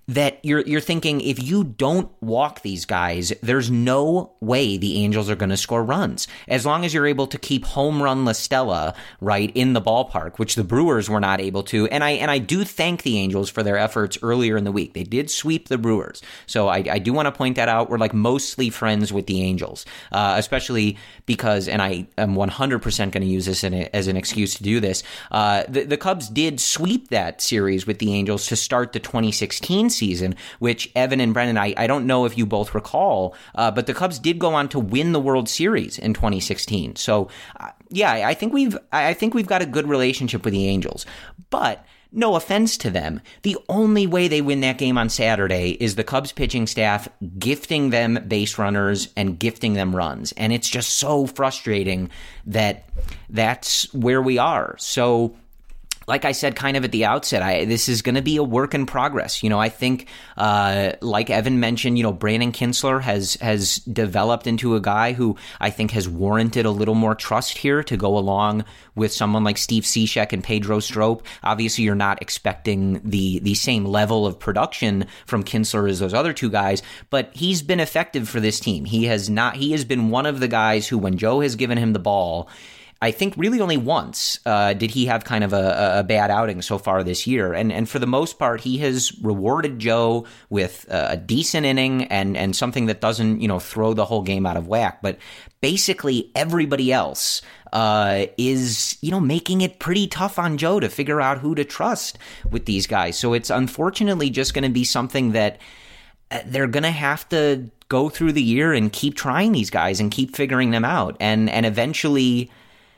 that you're you're thinking, if you don't walk these guys, there's no way the Angels are going to score runs. As long as you're able to keep home run La Stella, right, in the ballpark, which the Brewers were not able to. And I and I do thank the Angels for their efforts earlier in the week. They did sweep the Brewers. So I, I do want to point that out. We're like mostly friends with the Angels, uh, especially because, and I am one hundred percent going to use this in a, as an excuse to do this, uh, the, the Cubs did sweep that series with the Angels to start the twenty sixteen season. season, which Evan and Brendan, I, I don't know if you both recall, uh, but the Cubs did go on to win the World Series in twenty sixteen. So, uh, yeah, I think we've I think we've got a good relationship with the Angels. But no offense to them, the only way they win that game on Saturday is the Cubs pitching staff gifting them base runners and gifting them runs. And it's just so frustrating that that's where we are. So, like I said kind of at the outset, I, this is going to be a work in progress. You know, I think, uh, like Evan mentioned, you know, Brandon Kintzler has has developed into a guy who I think has warranted a little more trust here to go along with someone like Steve Cishek and Pedro Strop. Obviously, you're not expecting the the same level of production from Kintzler as those other two guys, but he's been effective for this team. He has not. He has been one of the guys who, when Joe has given him the ball, I think really only once uh, did he have kind of a, a bad outing so far this year. And and for the most part, he has rewarded Joe with a decent inning and, and something that doesn't, you know, throw the whole game out of whack. But basically everybody else uh, is, you know, making it pretty tough on Joe to figure out who to trust with these guys. So it's unfortunately just going to be something that they're going to have to go through the year and keep trying these guys and keep figuring them out. And and eventually...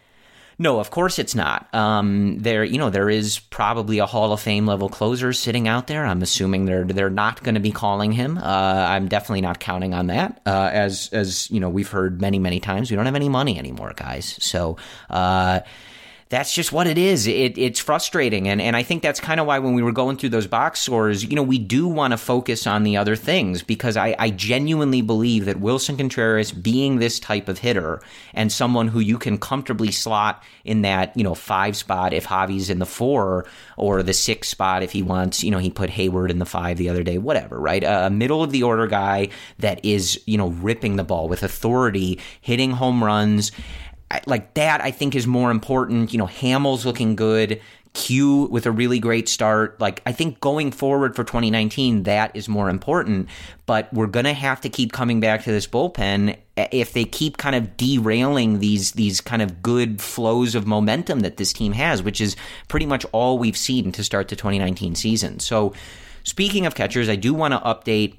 No, of course it's not. Um, there, you know, there is probably a Hall of Fame level closer sitting out there. I'm assuming they're they're not going to be calling him. Uh, I'm definitely not counting on that. Uh, as as you know, we've heard many many times, we don't have any money anymore, guys. So. Uh, That's just what it is. It, it's frustrating. And, and I think that's kind of why when we were going through those box scores, you know, we do want to focus on the other things, because I, I genuinely believe that Wilson Contreras, being this type of hitter and someone who you can comfortably slot in that, you know, five spot if Javi's in the four, or the six spot if he wants, you know, he put Hayward in the five the other day, whatever, right? A middle of the order guy that is, you know, ripping the ball with authority, hitting home runs. Like that, I think, is more important. You know, Hamels looking good, Q with a really great start. Like, I think going forward for twenty nineteen, that is more important. But we're going to have to keep coming back to this bullpen if they keep kind of derailing these these kind of good flows of momentum that this team has, which is pretty much all we've seen to start the twenty nineteen season. So, speaking of catchers, I do want to update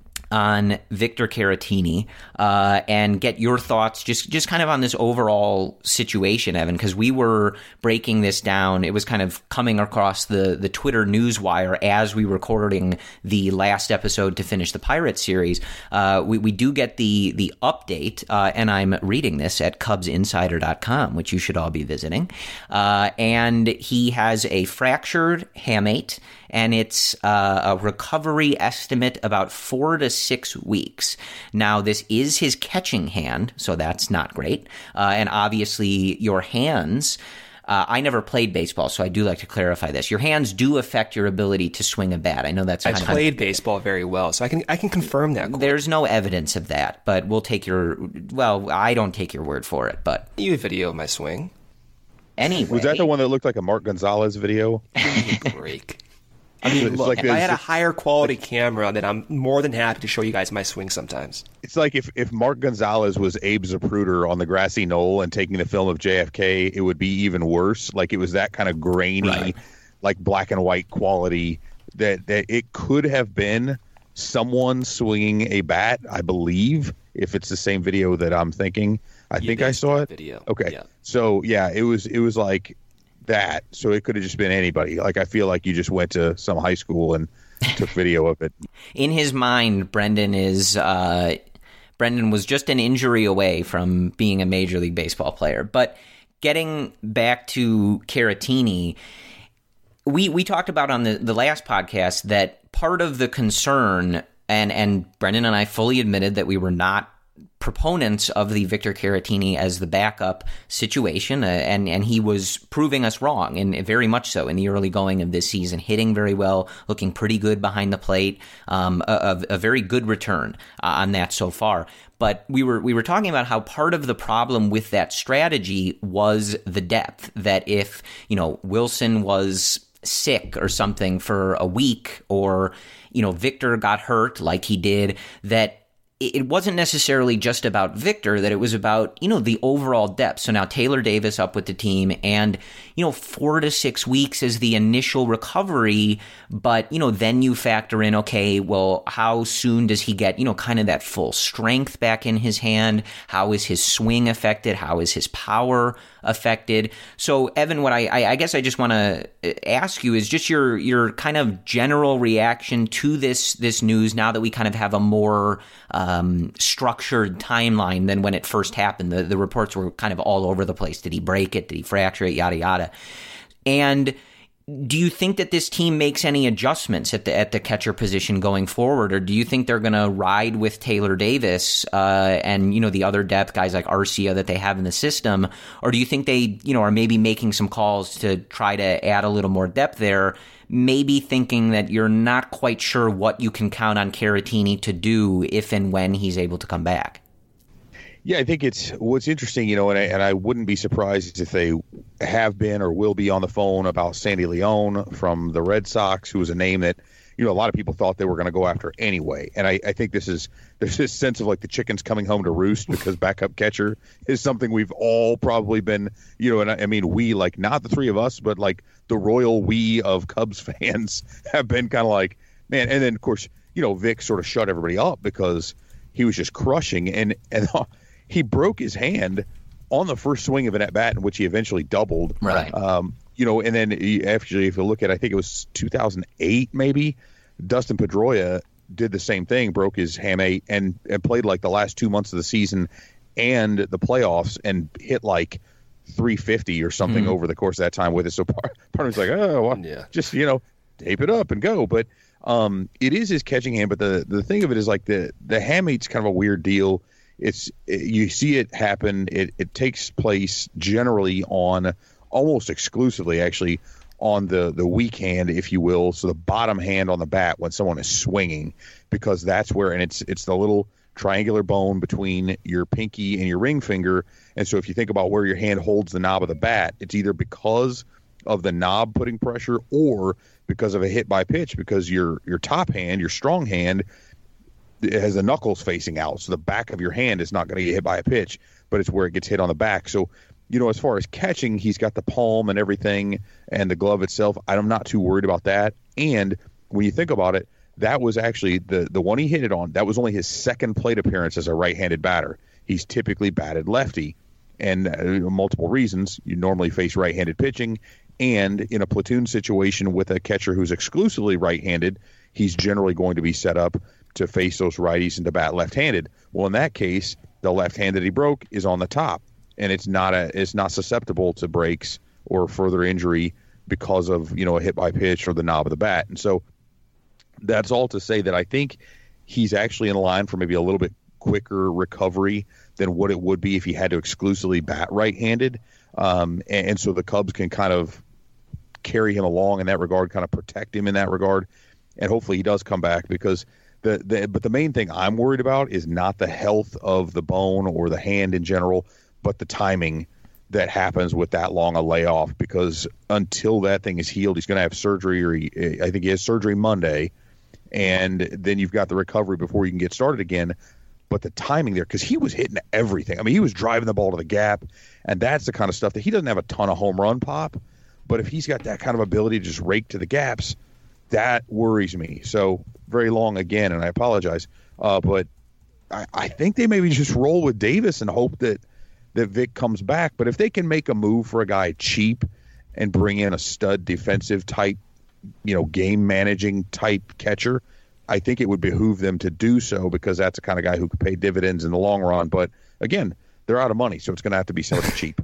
on Victor Caratini uh, and get your thoughts just, just kind of on this overall situation, Evan, because we were breaking this down. It was kind of coming across the, the Twitter newswire as we were recording the last episode to finish the Pirates series. Uh, we, we do get the, the update, uh, and I'm reading this at Cubs Insider dot com, which you should all be visiting. Uh, and he has a fractured hamate, and it's uh, a recovery estimate about four to six weeks. Now, this is his catching hand, so that's not great. Uh, and obviously, your hands, uh, I never played baseball, so I do like to clarify this. Your hands do affect your ability to swing a bat. I know that's I kind played of, baseball very well, so I can I can confirm that. There's no evidence of that, but we'll take your, well, I don't take your word for it, but. You have video of my swing. Anyway. Was that the one that looked like a Mark Gonzalez video? Break. I mean, look, like if I had a higher quality like, camera, then I'm more than happy to show you guys my swing sometimes. It's like if, if Mark Gonzalez was Abe Zapruder on the grassy knoll and taking the film of J F K, it would be even worse. Like, it was that kind of grainy, right, like black and white quality that, that it could have been someone swinging a bat, I believe, if it's the same video that I'm thinking. I you think I saw it. Video. Okay. Yeah. So, yeah, it was it was like that, so it could have just been anybody. Like, I feel like you just went to some high school and took video of it. In his mind, Brendan is uh, Brendan was just an injury away from being a Major League Baseball player. But getting back to Caratini, we we talked about on the, the last podcast that part of the concern, and and Brendan and I fully admitted that we were not proponents of the Victor Caratini as the backup situation, uh, and and he was proving us wrong, and very much so in the early going of this season, hitting very well, looking pretty good behind the plate, um, a, a very good return uh, on that so far. But we were we were talking about how part of the problem with that strategy was the depth. That if, you know, Wilson was sick or something for a week, or, you know, Victor got hurt like he did, that it wasn't necessarily just about Victor, that it was about, you know, the overall depth. So now Taylor Davis up with the team, and, you know, four to six weeks is the initial recovery. But, you know, then you factor in, okay, well, how soon does he get, you know, kind of that full strength back in his hand? How is his swing affected? How is his power affected? So, Evan, what I, I, I guess I just want to ask you is just your your kind of general reaction to this this news now that we kind of have a more um, structured timeline than when it first happened. The, the reports were kind of all over the place. Did he break it? Did he fracture it? Yada, yada. And do you think that this team makes any adjustments at the at the catcher position going forward, or do you think they're going to ride with Taylor Davis uh, and, you know, the other depth guys like Arcia that they have in the system, or do you think they, you know, are maybe making some calls to try to add a little more depth there, maybe thinking that you're not quite sure what you can count on Caratini to do if and when he's able to come back? Yeah, I think it's what's interesting, you know, and I, and I wouldn't be surprised if they have been or will be on the phone about Sandy Leon from the Red Sox, who was a name that, you know, a lot of people thought they were going to go after anyway. And I, I think this is there's this sense of like the chickens coming home to roost, because backup catcher is something we've all probably been, you know, and I, I mean, we, like, not the three of us, but like the royal we of Cubs fans have been kind of like, man. And then, of course, you know, Vic sort of shut everybody up because he was just crushing. And, and he broke his hand on the first swing of an at-bat in which he eventually doubled. Right. Um, you know, and then he, actually, if you look at, I think it was two thousand eight maybe, Dustin Pedroia did the same thing, broke his hamate, and, and played like the last two months of the season and the playoffs and hit like three fifty or something mm. over the course of that time with it. So part, part of me's like, oh, well, yeah. just, you know, tape it up and go. But um, it is his catching hand. But the, the thing of it is, like, the, the hamate's kind of a weird deal. It's you see it happen. It, it takes place generally on almost exclusively, actually, on the, the weak hand, if you will. So the bottom hand on the bat when someone is swinging, because that's where, and it's it's the little triangular bone between your pinky and your ring finger. And so if you think about where your hand holds the knob of the bat, it's either because of the knob putting pressure or because of a hit by pitch, because your your top hand, your strong hand, it has the knuckles facing out, so the back of your hand is not going to get hit by a pitch, but it's where it gets hit on the back. So, you know, as far as catching, he's got the palm and everything, and the glove itself. I'm not too worried about that. And when you think about it, that was actually the the one he hit it on. That was only his second plate appearance as a right-handed batter. He's typically batted lefty, and uh, multiple reasons. You normally face right-handed pitching, and in a platoon situation with a catcher who's exclusively right-handed, he's generally going to be set up to face those righties and to bat left-handed. Well, in that case, the left hand that he broke is on the top, and it's not a it's not susceptible to breaks or further injury because of, you know, a hit by pitch or the knob of the bat. And so that's all to say that I think he's actually in line for maybe a little bit quicker recovery than what it would be if he had to exclusively bat right-handed. Um, and, and so the Cubs can kind of carry him along in that regard, kind of protect him in that regard, and hopefully he does come back, because The, the but the main thing I'm worried about is not the health of the bone or the hand in general, but the timing that happens with that long a layoff, because until that thing is healed, he's going to have surgery, or he, I think he has surgery Monday, and then you've got the recovery before you can get started again. But the timing there, because he was hitting everything. I mean, he was driving the ball to the gap, and that's the kind of stuff that he doesn't have a ton of home run pop, but if he's got that kind of ability to just rake to the gaps, that worries me. So very long again, and I apologize, uh, but I, I think they maybe just roll with Davis and hope that that Vic comes back. But if they can make a move for a guy cheap and bring in a stud defensive type, you know, game managing type catcher, I think it would behoove them to do so, because that's the kind of guy who could pay dividends in the long run. But again, they're out of money, so it's going to have to be somebody cheap.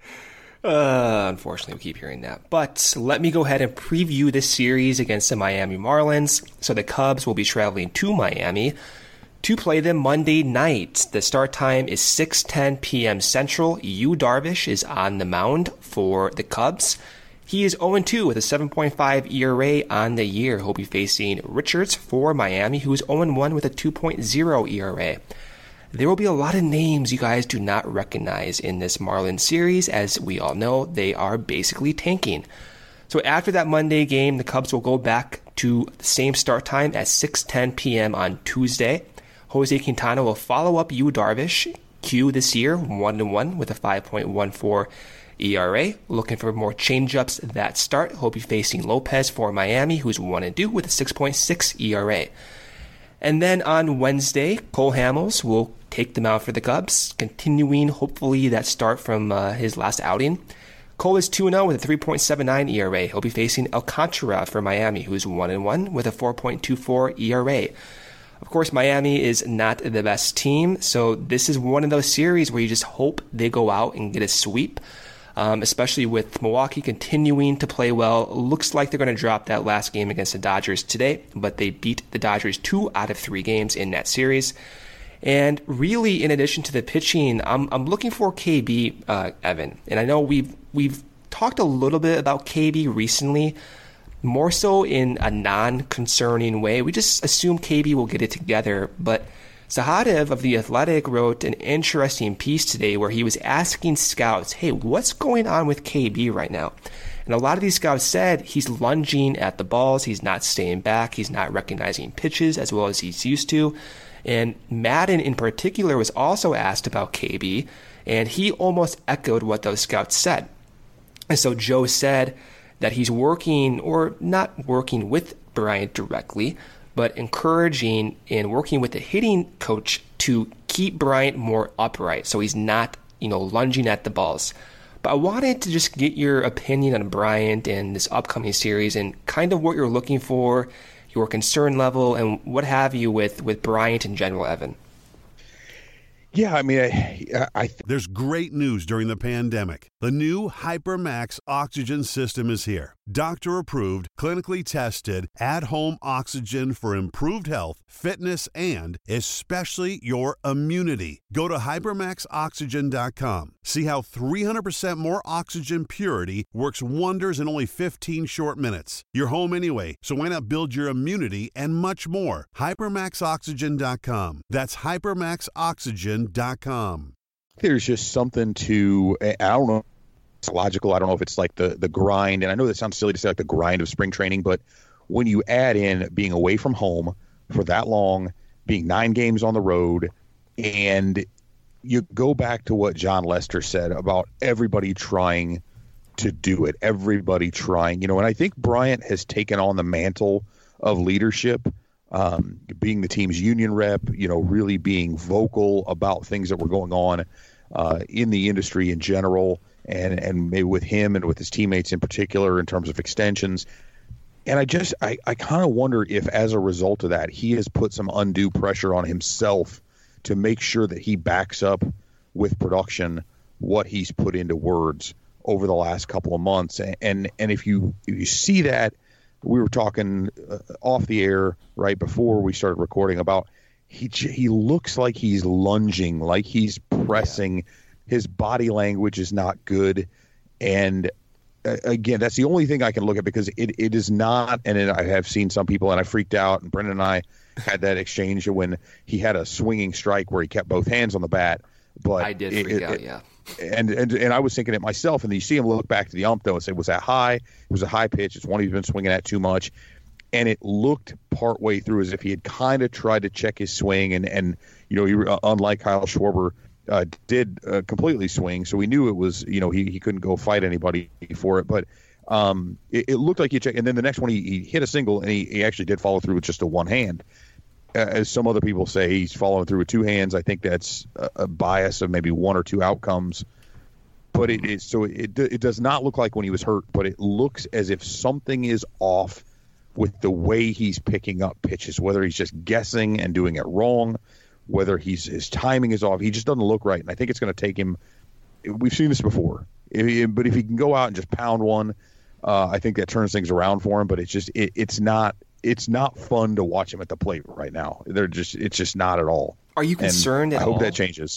Uh, unfortunately, we keep hearing that. But let me go ahead and preview this series against the Miami Marlins. So the Cubs will be traveling to Miami. to play them Monday night. The start time is six ten p.m. Central. Yu Darvish is on the mound for the Cubs. He is oh and two with a seven point five E R A on the year. He'll be facing Richards for Miami, who is oh and one with a two point oh E R A. There will be a lot of names you guys do not recognize in this Marlins series. As we all know, they are basically tanking. So after that Monday game, the Cubs will go back to the same start time at six ten p.m. on Tuesday. Jose Quintana will follow up Yu Darvish, Q this year, one and one with a five point one four E R A. Looking for more changeups that start. He'll be facing Lopez for Miami, who's one and two with a six point six E R A. And then on Wednesday, Cole Hamels will take them out for the Cubs, continuing hopefully that start from uh, his last outing. Cole is two and oh with a three point seven nine E R A. He'll be facing Alcantara for Miami, who's one and one with a four point two four E R A. Of course, Miami is not the best team, so this is one of those series where you just hope they go out and get a sweep, um, especially with Milwaukee continuing to play well. Looks like they're going to drop that last game against the Dodgers today, but they beat the Dodgers two out of three games in that series. And really, in addition to the pitching, I'm I'm looking for K B, uh, Evan. And I know we've we've talked a little bit about K B recently, more so in a non-concerning way. We just assume K B will get it together. But Sahadev of The Athletic wrote an interesting piece today where he was asking scouts, hey, what's going on with K B right now? And a lot of these scouts said he's lunging at the balls, he's not staying back, he's not recognizing pitches as well as he's used to. And Madden in particular was also asked about K B, and he almost echoed what those scouts said. And so Joe said that he's working, or not working with Bryant directly, but encouraging and working with the hitting coach to keep Bryant more upright so he's not, you know, lunging at the balls. But I wanted to just get your opinion on Bryant and this upcoming series and kind of what you're looking for, your concern level, and what have you with, with Bryant in general, Evan. Yeah, I mean, I, I th- There's great news during the pandemic. The new HyperMax oxygen system is here. Doctor-approved, clinically tested, at-home oxygen for improved health, fitness, and especially your immunity. Go to hypermax oxygen dot com. See how three hundred percent more oxygen purity works wonders in only fifteen short minutes. You're home anyway, so why not build your immunity and much more? hypermax oxygen dot com. That's hypermax oxygen dot com. There's just something to, I don't know, it's logical. I don't know if it's like the, the grind. And I know that sounds silly to say like the grind of spring training, but when you add in being away from home for that long, being nine games on the road, and you go back to what John Lester said about everybody trying to do it, everybody trying, you know, and I think Bryant has taken on the mantle of leadership. Um, being the team's union rep, you know, really being vocal about things that were going on uh, in the industry in general, and, and maybe with him and with his teammates in particular in terms of extensions. And I just, I, I kind of wonder if as a result of that, he has put some undue pressure on himself to make sure that he backs up with production what he's put into words over the last couple of months. And, and, and if you, if you see that, we were talking uh, off the air right before we started recording about he he looks like he's lunging, like he's pressing. Yeah. His body language is not good. And uh, again, that's the only thing I can look at because it, it is not. And it, I have seen some people, and I freaked out. And Brendan and I had that exchange when he had a swinging strike where he kept both hands on the bat. But I did freak it, out, it, yeah. And, and and I was thinking it myself, and you see him look back to the ump though and say, was that high? It was a high pitch. It's one he's been swinging at too much. And it looked partway through as if he had kind of tried to check his swing. And, and you know, he, uh, unlike Kyle Schwarber, uh, did uh, completely swing. So we knew it was, you know, he, he couldn't go fight anybody for it. But um, it, it looked like he checked. And then the next one, he, he hit a single, and he, he actually did follow through with just a one hand. As some other people say, he's following through with two hands. I think that's a, a bias of maybe one or two outcomes. But it is so it it does not look like when he was hurt, but it looks as if something is off with the way he's picking up pitches, whether he's just guessing and doing it wrong, whether he's his timing is off. He just doesn't look right. And I think it's going to take him. We've seen this before, if he, but if he can go out and just pound one, uh, I think that turns things around for him. But it's just it, it's not it's not fun to watch him at the plate right now. They're just it's just not at all. Are you concerned and at I hope all? that changes.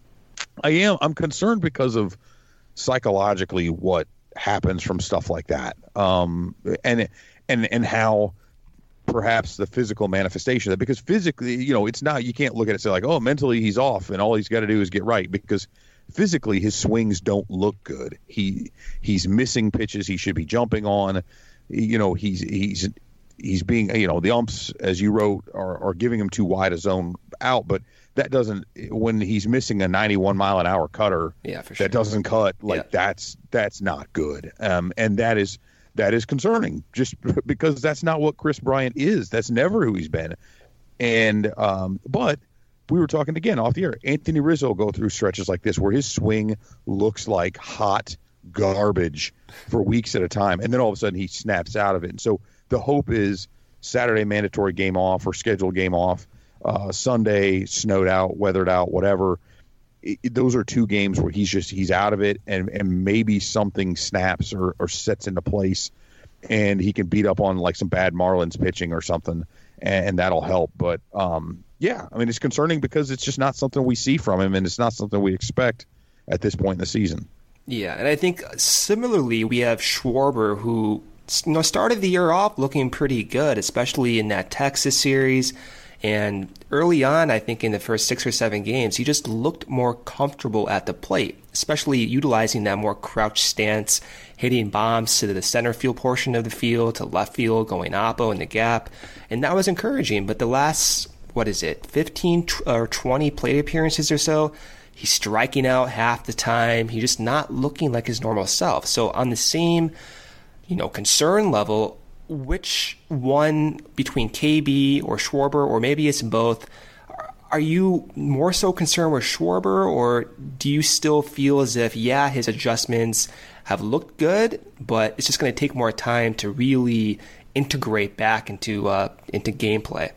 I am. I'm concerned because of psychologically what happens from stuff like that, um, and and and how perhaps the physical manifestation of that. Because physically, you know, it's not. You can't look at it and say like, oh, mentally he's off, and all he's got to do is get right. Because physically, his swings don't look good. He he's missing pitches he should be jumping on. You know, he's he's he's being. You know, the umps, as you wrote, are are giving him too wide a zone out, but that doesn't, when he's missing a ninety-one mile an hour cutter, yeah, for sure. that doesn't cut, like yeah. that's that's not good. Um, and that is that is concerning, just because that's not what Kris Bryant is. That's never who he's been. And um, but we were talking again off the air. Anthony Rizzo will go through stretches like this where his swing looks like hot garbage for weeks at a time, and then all of a sudden he snaps out of it. And so the hope is Saturday mandatory game off or scheduled game off. Uh, Sunday, snowed out, weathered out, whatever. It, it, those are two games where he's just he's out of it, and, and maybe something snaps or, or sets into place, and he can beat up on like some bad Marlins pitching or something, and, and that'll help. But um, yeah, I mean, it's concerning because it's just not something we see from him, and it's not something we expect at this point in the season. Yeah, and I think similarly we have Schwarber, who you know started the year off looking pretty good, especially in that Texas series. And early on, I think in the first six or seven games, he just looked more comfortable at the plate, especially utilizing that more crouched stance, hitting bombs to the center field portion of the field, to left field, going oppo in the gap. And that was encouraging. But the last, what is it, fifteen or twenty plate appearances or so, he's striking out half the time. He's just not looking like his normal self. So on the same, you know, concern level, which one between K B or Schwarber, or maybe it's both, are you more so concerned with Schwarber, or do you still feel as if, yeah, his adjustments have looked good, but it's just going to take more time to really integrate back into uh, into gameplay?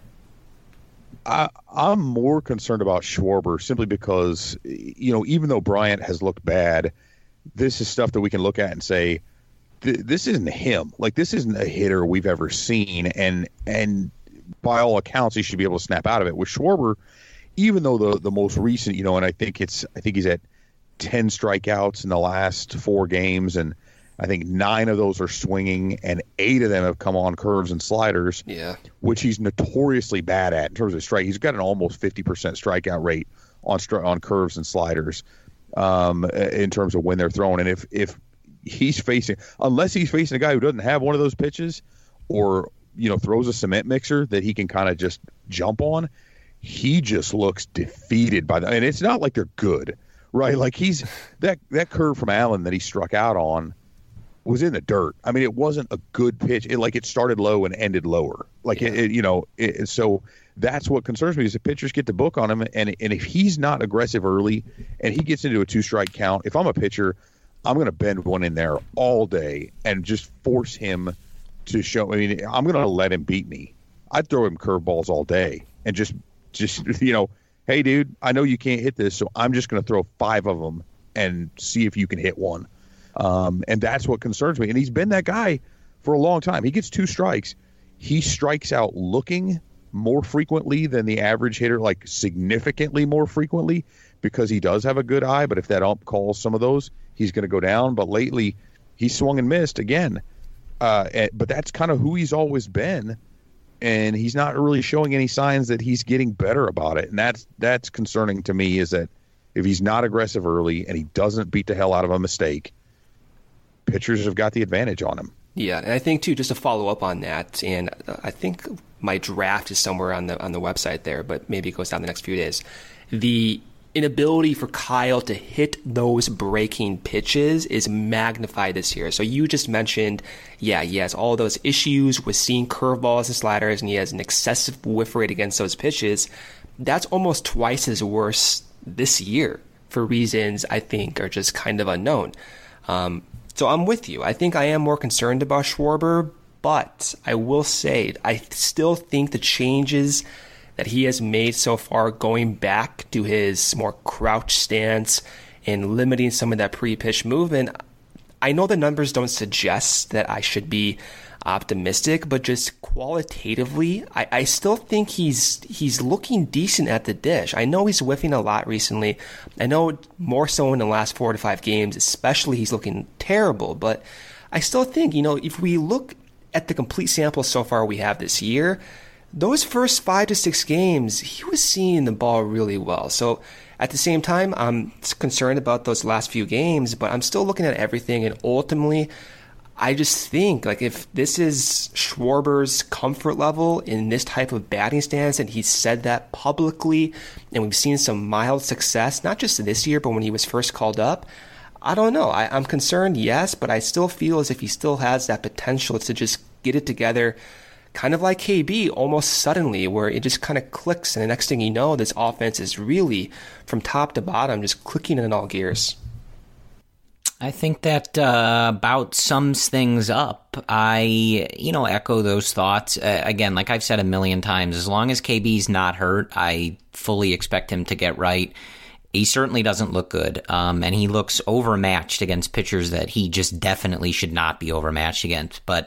I, I'm more concerned about Schwarber simply because, you know, even though Bryant has looked bad, this is stuff that we can look at and say, this isn't him. Like, this isn't a hitter we've ever seen, and and by all accounts, he should be able to snap out of it. With Schwarber, even though the the most recent, you know, and I think it's I think he's at ten strikeouts in the last four games, and I think nine of those are swinging, and eight of them have come on curves and sliders. Yeah, which he's notoriously bad at in terms of strike. He's got an almost fifty percent strikeout rate on on curves and sliders, um, in terms of when they're thrown. And if if he's facing, unless he's facing a guy who doesn't have one of those pitches, or, you know, throws a cement mixer that he can kind of just jump on, he just looks defeated by that. And it's not like they're good, right? Like, he's that, that curve from Allen that he struck out on was in the dirt. I mean, it wasn't a good pitch. It like it started low and ended lower. Like, yeah. it, it, you know, it, so that's what concerns me is the pitchers get the book on him. And, and if he's not aggressive early and he gets into a two strike count, if I'm a pitcher, I'm going to bend one in there all day and just force him to show. I mean, I'm going to let him beat me. I'd throw him curveballs all day and just, just, you know, hey, dude, I know you can't hit this, so I'm just going to throw five of them and see if you can hit one. Um, and that's what concerns me. And he's been that guy for a long time. He gets two strikes. He strikes out looking more frequently than the average hitter, like significantly more frequently, because he does have a good eye. But if that ump calls some of those, he's going to go down. But lately, he swung and missed again. Uh, and, but that's kind of who he's always been. And he's not really showing any signs that he's getting better about it. And that's that's concerning to me, is that if he's not aggressive early and he doesn't beat the hell out of a mistake, pitchers have got the advantage on him. Yeah, and I think, too, just to follow up on that, and I think my draft is somewhere on the on the website there, but maybe it goes down the next few days. The inability for Kyle to hit those breaking pitches is magnified this year. So you just mentioned, yeah, he has all those issues with seeing curveballs and sliders, and he has an excessive whiff rate against those pitches. That's almost twice as worse this year for reasons I think are just kind of unknown. Um, so I'm with you. I think I am more concerned about Schwarber, but I will say I still think the changes that he has made so far, going back to his more crouch stance and limiting some of that pre-pitch movement, I know the numbers don't suggest that I should be optimistic, but just qualitatively, I, I still think he's he's looking decent at the dish. I know he's whiffing a lot recently. I know more so in the last four to five games, especially he's looking terrible. But I still think, you know, if we look at the complete sample so far we have this year, those first five to six games, he was seeing the ball really well. So at the same time, I'm concerned about those last few games, but I'm still looking at everything. And ultimately, I just think, like, if this is Schwarber's comfort level in this type of batting stance, and he's said that publicly, and we've seen some mild success, not just this year, but when he was first called up, I don't know. I, I'm concerned, yes, but I still feel as if he still has that potential to just get it together, kind of like K B, almost suddenly, where it just kind of clicks, and the next thing you know, this offense is really, from top to bottom, just clicking in all gears. I think that uh, about sums things up. I, you know, echo those thoughts. Uh, again, like I've said a million times, as long as K B's not hurt, I fully expect him to get right. He certainly doesn't look good, um, and he looks overmatched against pitchers that he just definitely should not be overmatched against. But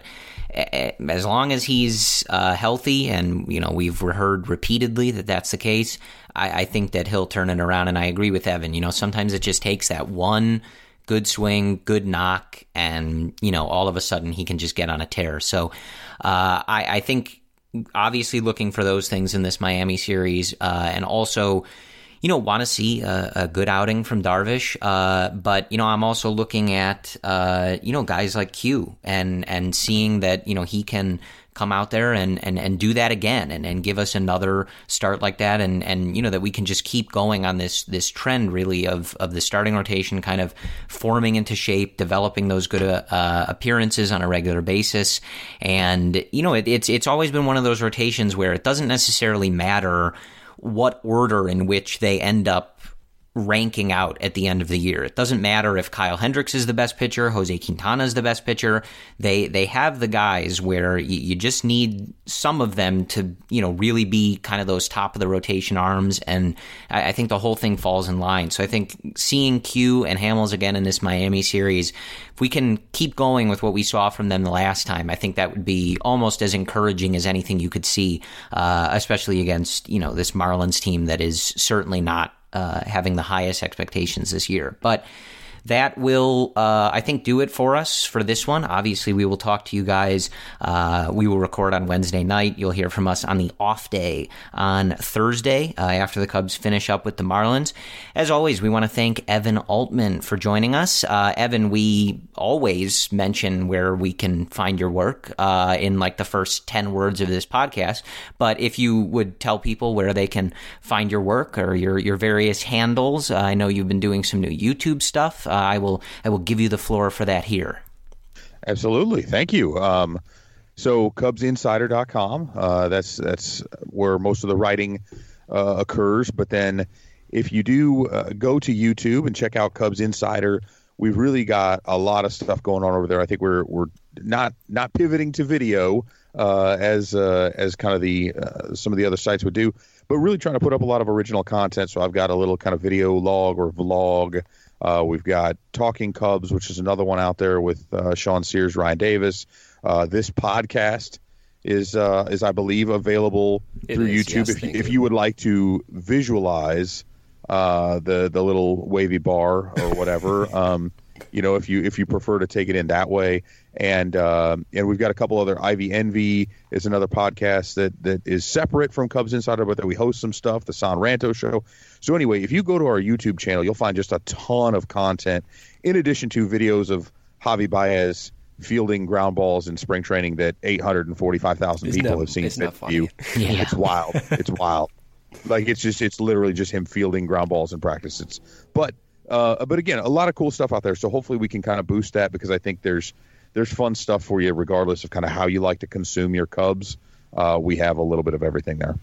as long as he's uh, healthy, and, you know, we've heard repeatedly that that's the case, I, I think that he'll turn it around. And I agree with Evan. You know, sometimes it just takes that one good swing, good knock, and, you know, all of a sudden he can just get on a tear. So uh, I, I think obviously looking for those things in this Miami series, uh, and also, you know, want to see a, a good outing from Darvish. Uh, but, you know, I'm also looking at, uh, you know, guys like Q and, and seeing that, you know, he can come out there and, and, and do that again and, and give us another start like that. And, and, you know, that we can just keep going on this, this trend really of, of the starting rotation kind of forming into shape, developing those good uh, appearances on a regular basis. And, you know, it, it's, it's always been one of those rotations where it doesn't necessarily matter what order in which they end up ranking out at the end of the year. It doesn't matter if Kyle Hendricks is the best pitcher, Jose Quintana is the best pitcher. They they have the guys where you, you just need some of them to, you know, really be kind of those top of the rotation arms, and I, I think the whole thing falls in line. So I think seeing Q and Hamels again in this Miami series, if we can keep going with what we saw from them the last time, I think that would be almost as encouraging as anything you could see, uh, especially against, you know, this Marlins team that is certainly not Uh, having the highest expectations this year. But that will, uh, I think, do it for us for this one. Obviously, we will talk to you guys. Uh, we will record on Wednesday night. You'll hear from us on the off day on Thursday uh, after the Cubs finish up with the Marlins. As always, we want to thank Evan Altman for joining us. Uh, Evan, we always mention where we can find your work uh, in like the first ten words of this podcast. But if you would tell people where they can find your work or your, your various handles, uh, I know you've been doing some new YouTube stuff. Uh, I will I will give you the floor for that here. Absolutely. Thank you. Um, so Cubs Insider dot com, uh, that's that's where most of the writing uh, occurs. But then if you do uh, go to YouTube and check out Cubs Insider, we've really got a lot of stuff going on over there. I think we're we're not not pivoting to video uh, as uh, as kind of the uh, some of the other sites would do, but really trying to put up a lot of original content. So I've got a little kind of video log or vlog. Uh, we've got Talking Cubs, which is another one out there with uh, Sean Sears, Ryan Davis. Uh, this podcast is, uh, is I believe, available it through is, YouTube. Yes, if, you, if you would like to visualize uh, the the little wavy bar or whatever, um, you know, if you if you prefer to take it in that way. And uh, and we've got a couple other. Ivy Envy is another podcast that that is separate from Cubs Insider, but that we host some stuff. The San Ranto Show. So anyway, if you go to our YouTube channel, you'll find just a ton of content, in addition to videos of Javi Baez fielding ground balls in spring training that eight hundred forty-five thousand people not, have seen it's fit view. Yeah. It's wild. It's wild. Like it's just it's literally just him fielding ground balls in practice. It's but uh, but again, a lot of cool stuff out there. So hopefully we can kind of boost that, because I think there's there's fun stuff for you regardless of kind of how you like to consume your Cubs. Uh, we have a little bit of everything there.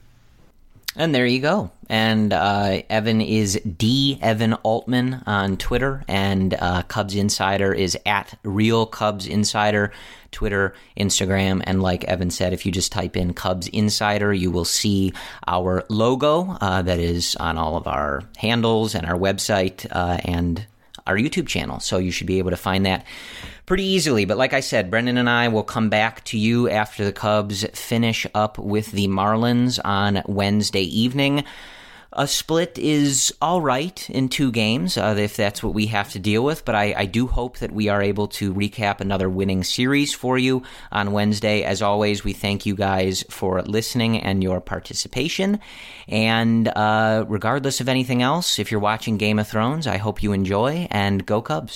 And there you go. And uh, Evan is D Evan Altman on Twitter, and uh, Cubs Insider is at Real Cubs Insider, Twitter, Instagram, and like Evan said, if you just type in Cubs Insider, you will see our logo uh, that is on all of our handles and our website uh, and our YouTube channel. So you should be able to find that pretty easily. But like I said, Brendan and I will come back to you after the Cubs finish up with the Marlins on Wednesday evening. A split is all right in two games, uh, if that's what we have to deal with, but I, I do hope that we are able to recap another winning series for you on Wednesday. As always, we thank you guys for listening and your participation, and uh, regardless of anything else, if you're watching Game of Thrones, I hope you enjoy, and go Cubs.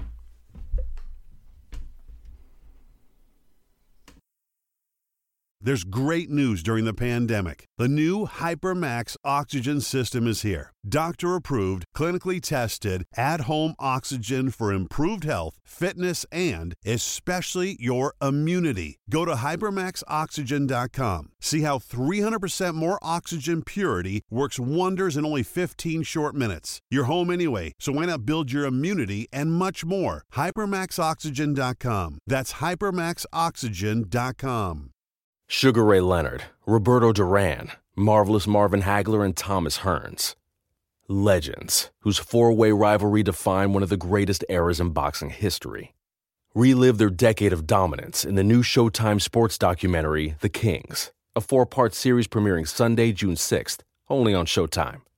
There's great news during the pandemic. The new HyperMax oxygen system is here. Doctor-approved, clinically tested, at-home oxygen for improved health, fitness, and especially your immunity. Go to hypermax oxygen dot com. See how three hundred percent more oxygen purity works wonders in only fifteen short minutes. You're home anyway, so why not build your immunity and much more? hypermax oxygen dot com. That's hypermax oxygen dot com. Sugar Ray Leonard, Roberto Duran, Marvelous Marvin Hagler, and Thomas Hearns. Legends, whose four-way rivalry defined one of the greatest eras in boxing history. Relive their decade of dominance in the new Showtime sports documentary, The Kings, a four-part series premiering Sunday, June sixth, only on Showtime.